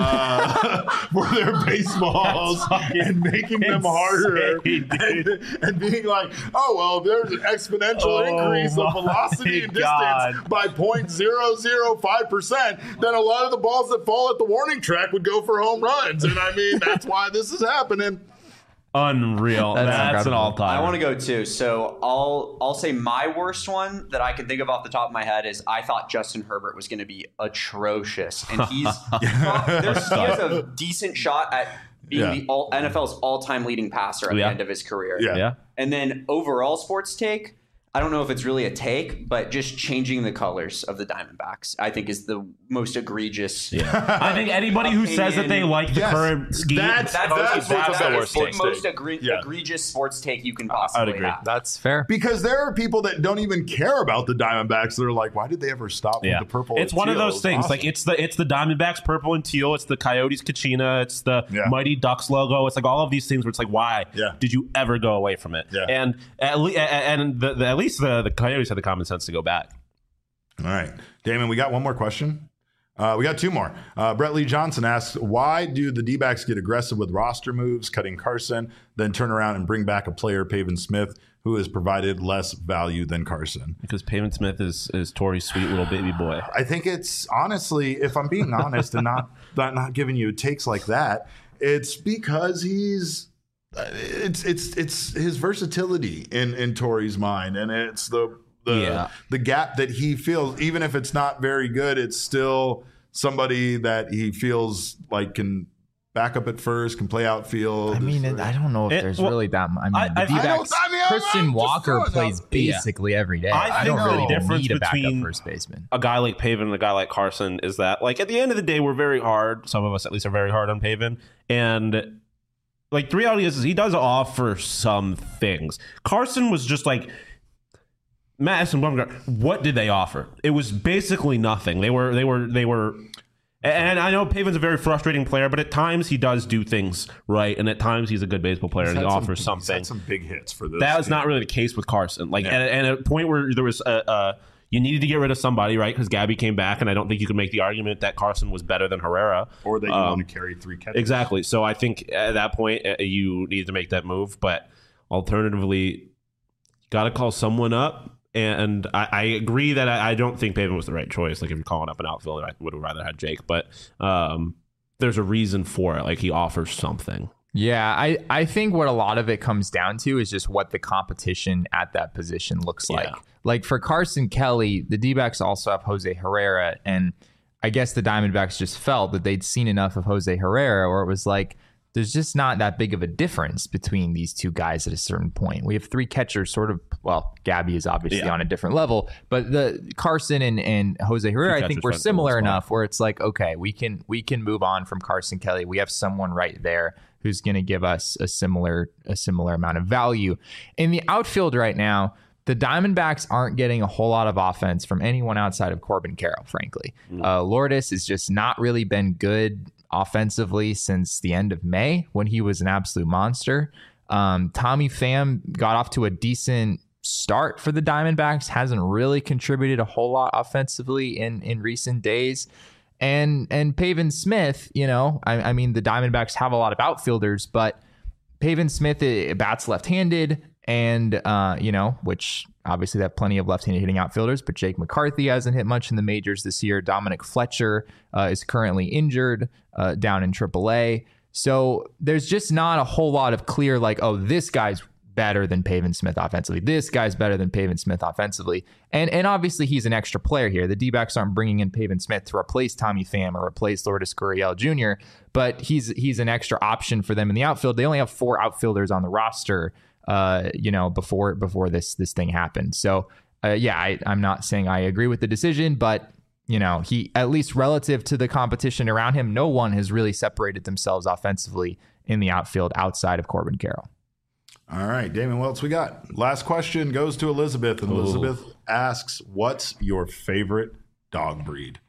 uh, for their baseballs and making them harder insane, and, dude. and being like, oh, well, there's an exponential Oh, increase of my velocity and distance God. by zero point zero zero five percent, then a lot of the balls that fall at the warning track would go for home runs. And I mean, that's why this is happening. Unreal. That's That's, an incredible. all-time. I want to go too. So I'll I'll say my worst one that I can think of off the top of my head is I thought Justin Herbert was going to be atrocious, and he's there's, he has a decent shot at being Yeah. the all, N F L's all-time leading passer at Yeah. the end of his career. Yeah. Yeah. And then overall sports take, I don't know if it's really a take, but just changing the colors of the Diamondbacks, I think, is the most egregious. Yeah. I think anybody who says that they like the Yes. current scheme, That's- That's, That's that's, what's that's the worst the take. most egre- Yeah. egregious sports take you can possibly agree. have. that's fair. Because there are people that don't even care about the Diamondbacks that are like, why did they ever stop yeah, with the purple? it's and one of teal? those It's things. awesome. Like it's the it's the Diamondbacks purple and teal. It's the Coyotes Kachina. It's the Yeah. Mighty Ducks logo. It's like all of these things where it's like, why Yeah. did you ever go away from it? Yeah. And at, le- and the, the, at least the, the Coyotes had the common sense to go back. All right, Damon, we got one more question. Uh, we got two more. Uh, Brett Lee Johnson asks, why do the D-backs get aggressive with roster moves, cutting Carson, then turn around and bring back a player, Pavin Smith, who has provided less value than Carson? Because Pavin Smith is, is Torrey's sweet little baby boy. I think it's, honestly, if I'm being honest and not, not not giving you takes like that, it's because he's it's it's it's his versatility in, in Torrey's mind, and it's the the Yeah. the gap that he feels, even if it's not very good, it's still somebody that he feels like can back up at first, can play outfield. I mean, it, I don't know if It- there's well, really that. I mean, I- the I- I D-backs, don't- I mean, I'm- Christian I'm just Walker throwing plays out- basically every day. I I, think don't the really difference need a backup between- first baseman. A guy like Pavin and a guy like Carson is that, like, at the end of the day, we're very hard. Some of us, at least, are very hard on Pavin. And, like, the reality is, is he does offer some things. Carson was just like, Madison Bumgarner, what did they offer? It was basically nothing. They were, they were, they were. And I know Pavin's a very frustrating player, but at times he does do things right, and at times he's a good baseball player and he He's had offers some, he's something. had some big hits for this. That was team. not really the case with Carson. Like, Yeah. and, and at a point where there was a, a you needed to get rid of somebody, right? Because Gabby came back, and I don't think you could make the argument that Carson was better than Herrera. Or that you Um, want to carry three catches. Exactly. So I think at that point uh, you need to make that move. But alternatively, you got to call someone up. And I, I agree that I, I don't think Pavin was the right choice. Like, if you're calling up an outfielder, I would have rather had Jake. But um, there's a reason for it. Like, he offers something. Yeah, I, I think what a lot of it comes down to is just what the competition at that position looks like. Yeah. Like for Carson Kelly, the D-backs also have Jose Herrera, and I guess the Diamondbacks just felt that they'd seen enough of Jose Herrera where it was like, there's just not that big of a difference between these two guys at a certain point. We have three catchers sort of, well, Gabby is obviously Yeah. on a different level, but the Carson and, and Jose Herrera, I think catchers we're fight for the similar spot. enough where it's like, okay, we can we can move on from Carson Kelly. We have someone right there who's going to give us a similar a similar amount of value. In the outfield right now, the Diamondbacks aren't getting a whole lot of offense from anyone outside of Corbin Carroll, frankly. Mm. Uh, Lourdes has just not really been good offensively since the end of May when he was an absolute monster. Um, Tommy Pham got off to a decent start for the Diamondbacks, hasn't really contributed a whole lot offensively in, in recent days. And and Pavin Smith, you know, I, I mean, the Diamondbacks have a lot of outfielders, but Pavin Smith uh, bats left-handed, and uh, you know, which obviously they have plenty of left-handed hitting outfielders, but Jake McCarthy hasn't hit much in the majors this year. Dominic Fletcher uh, is currently injured uh, down in triple A. So there's just not a whole lot of clear, like, oh, this guy's better than Pavin Smith offensively. This guy's better than Pavin Smith offensively. And and obviously he's an extra player here. The D-backs aren't bringing in Pavin Smith to replace Tommy Pham or replace Lourdes Gurriel Junior, but he's he's an extra option for them in the outfield. They only have four outfielders on the roster, uh, you know, before before this this thing happened. So uh, yeah, I, I'm not saying I agree with the decision, but you know, he, at least relative to the competition around him, no one has really separated themselves offensively in the outfield outside of Corbin Carroll. All right, Damon, what else we got? Last question goes to Elizabeth, and Ooh. Elizabeth asks, what's your favorite dog breed?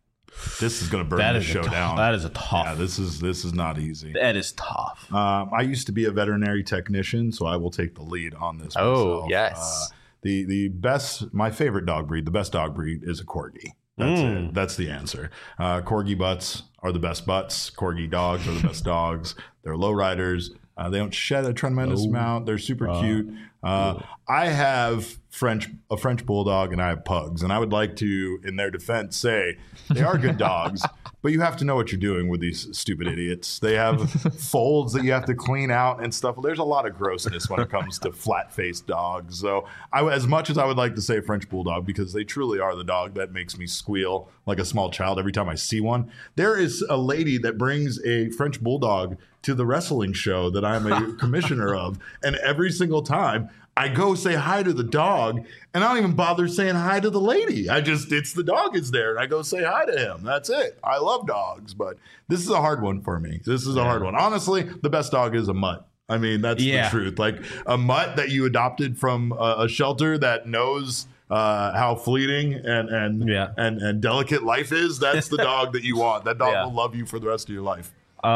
This is going to burn That the is a show tough- down. that is a tough. Yeah, this is this is not easy. That is tough. Um, I used to be a veterinary technician, so I will take the lead on this. Oh, myself. yes. Uh, the the best, my favorite dog breed, the best dog breed is a Corgi. That's Mm. it. That's the answer. Uh, Corgi butts are the best butts. Corgi dogs are the best dogs. They're low riders. Uh, they don't shed a tremendous Oh. amount. They're super Uh, cute. Uh, I have French a French bulldog and I have pugs, and I would like to, in their defense, say they are good dogs, but you have to know what you're doing with these stupid idiots. They have folds that you have to clean out and stuff. There's a lot of grossness when it comes to flat-faced dogs. So, I, as much as I would like to say French bulldog, because they truly are the dog that makes me squeal like a small child every time I see one, there is a lady that brings a French bulldog to the wrestling show that I'm a commissioner of, and every single time I go say hi to the dog, and I don't even bother saying hi to the lady. I just, it's the dog is there, and I go say hi to him. That's it. I love dogs, but this is a hard one for me. This is a hard one. Honestly, the best dog is a mutt. I mean, that's Yeah. the truth. Like a mutt that you adopted from a, a shelter that knows uh, how fleeting and and, Yeah. and and delicate life is. That's the dog that you want. That dog Yeah. will love you for the rest of your life.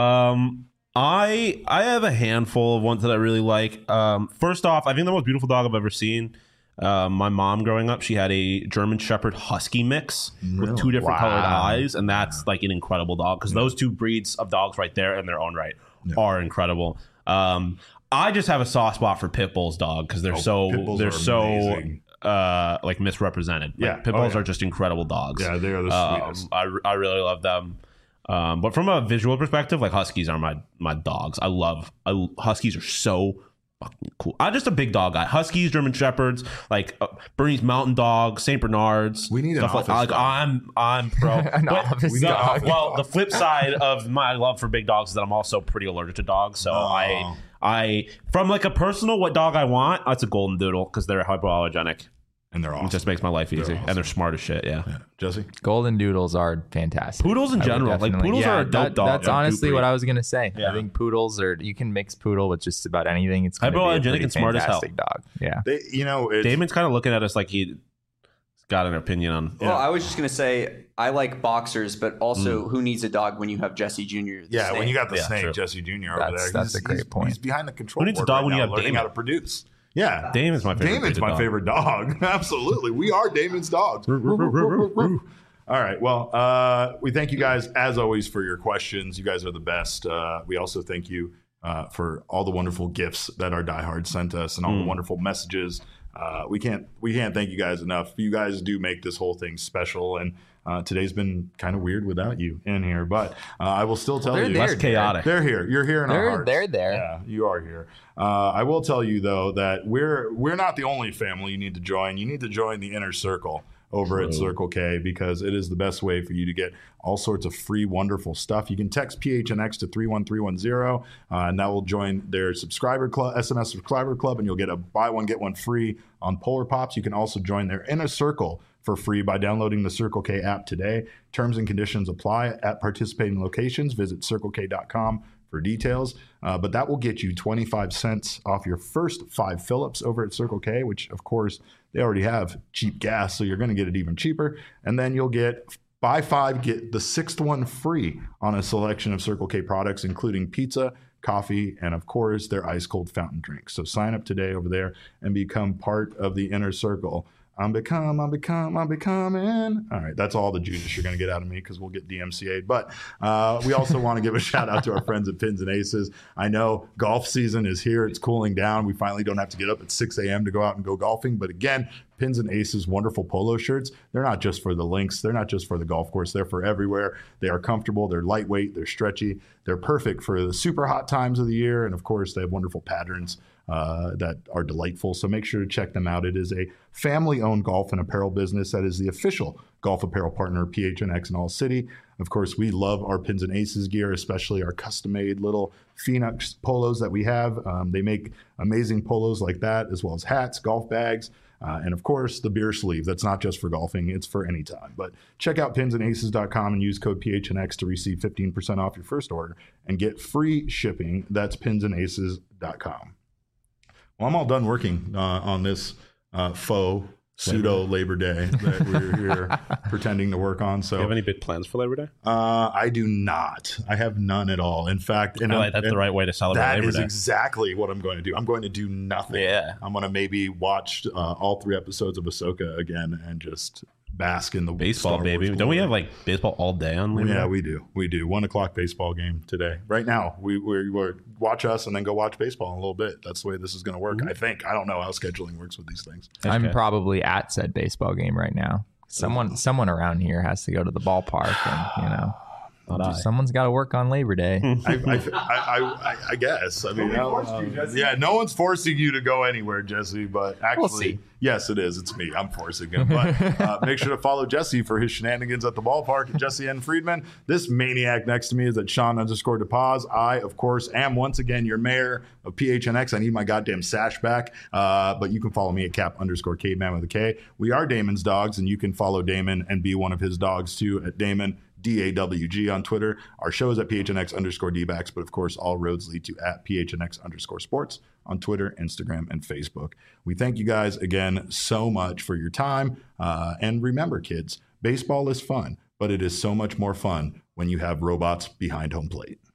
Um, I I have a handful of ones that I really like. Um, first off, I think the most beautiful dog I've ever seen Uh, my mom growing up, she had a German Shepherd Husky mix with two different Wow. colored eyes, and that's like an incredible dog because those two breeds of dogs right there in their own right Yeah. are incredible. Um, I just have a soft spot for pit bulls, dog, because they're Oh, so pit bulls they're are so amazing. uh, like misrepresented. Like, Yeah. pit Oh, bulls yeah. are just incredible dogs. Yeah, they are the Um, sweetest. I, I really love them. Um, but from a visual perspective, like Huskies are my my dogs. I love I, Huskies are so fucking cool. I'm just a big dog guy. Huskies, German Shepherds, like uh, Bernese Mountain Dog, Saint Bernards. We need an stuff like, office like dog. I'm I'm pro. An But office the- dog. Well, the flip side of my love for big dogs is that I'm also pretty allergic to dogs. So Oh. I I from like a personal what dog I want, that's a golden doodle because they're hypoallergenic. And they're awesome. It just makes my life easy, awesome. and they're smart as shit. Yeah. Yeah. Jesse? Golden doodles are fantastic. Poodles in I would general, like, definitely- poodles are a dope that- dog. That's Yeah, honestly dope what breed. I was gonna say. Yeah. I think poodles are. You can mix poodle with just about anything. It's gonna be a Hypoallergenic pretty and smart as hell. fantastic dog. Yeah. They, you know, it's, Damon's kind of looking at us like he's got an opinion on. Well, I was just gonna say I like boxers, but Mm. also who needs a dog when you have Jesse Junior the yeah, when snake? you got the Yeah, snake, true. Jesse Junior over That's- there. that's a great he's, point. He's behind the control Who needs a board dog right when you now, have learning Damon? how to produce. Yeah. Damon's my favorite Damon's breed of my dog. favorite dog. Absolutely. We are Damon's dogs. All right. Well, uh, we thank you guys, as always, for your questions. You guys are the best. Uh, we also thank you uh, for all the wonderful gifts that our diehards sent us and all the wonderful messages. Uh, we can't we can't thank you guys enough. You guys do make this whole thing special, and uh, today's been kind of weird without you in here. But uh, I will still tell They're you, there, Less chaotic. they're here. You're here in They're- our hearts. they're there. Yeah, you are here. Uh, I will tell you though that we're we're not the only family you need to join. You need to join the inner circle over at Circle K because it is the best way for you to get all sorts of free, wonderful stuff. You can text P H N X to three one three one zero, uh, and that will join their subscriber club, S M S subscriber club, and you'll get a buy one get one free on Polar Pops. You can also join their inner circle for free by downloading the Circle K app today. Terms and conditions apply at participating locations. Visit circle k dot com for details. Uh, but that will get you twenty-five cents off your first five fill-ups over at Circle K, which, of course, they already have cheap gas, so you're going to get it even cheaper. And then you'll get buy five, get the sixth one free on a selection of Circle K products, including pizza, coffee, and, of course, their ice-cold fountain drinks. So sign up today over there and become part of the inner circle. I'm become, I'm become, I'm becoming. All right, that's all the Judas you're going to get out of me because we'll get D M C A'd. But uh, we also want to give a shout out to our friends at Pins and Aces. I know golf season is here. It's cooling down. We finally don't have to get up at six a.m. to go out and go golfing. But again, Pins and Aces wonderful polo shirts. They're not just for the links. They're not just for the golf course. They're for everywhere. They are comfortable. They're lightweight. They're stretchy. They're perfect for the super hot times of the year. And of course, they have wonderful patterns uh, that are delightful. So make sure to check them out. It is a family-owned golf and apparel business that is the official golf apparel partner of P H N X in All City. Of course, we love our Pins and Aces gear, especially our custom-made little Phoenix polos that we have. Um, they make amazing polos like that, as well as hats, golf bags, uh, and of course, the beer sleeve. That's not just for golfing, it's for any time. But check out pins and aces dot com and use code P H N X to receive fifteen percent off your first order and get free shipping. That's pins and aces dot com. Well, I'm all done working uh, on this uh, faux pseudo Labor Day that we're here pretending to work on. So Do you have any big plans for Labor Day? uh, I do not. I have none at all. In fact, and I feel I'm- like that's and the right way to celebrate that Labor is Day. exactly what I'm going to do. I'm going to do nothing. Yeah. I'm going to maybe watch uh, all three episodes of Ahsoka again and just bask in the Baseball, Star baby. Wars Don't we glory. have like baseball all day on Labor Yeah, Day? we do. We do. One o'clock baseball game today. Right now, we we we're, watch us and then go watch baseball in a little bit. That's the way this is going to work. I think. I don't know how scheduling works with these things. I'm Okay. probably at said baseball game right now. Someone, someone around here has to go to the ballpark, and you know, Not I. someone's got to work on Labor Day. I, I, I, I, I guess. I mean, uh, yeah, no one's forcing you to go anywhere, Jesse. But actually, see. yes, it is. It's me. I'm forcing him. But uh, make sure to follow Jesse for his shenanigans at the ballpark at Jesse N. Friedman. This maniac next to me is at Sean underscore DePaz. I, of course, am once again your mayor of P H N X. I need my goddamn sash back. Uh, but you can follow me at Cap underscore Caveman with a K. We are Damon's dogs, and you can follow Damon and be one of his dogs too at Damon. D A W G on Twitter. Our show is at P H N X underscore D-backs, but of course, all roads lead to at P H N X underscore sports on Twitter, Instagram, and Facebook. We thank you guys again so much for your time. Uh, and remember, kids, baseball is fun, but it is so much more fun when you have robots behind home plate.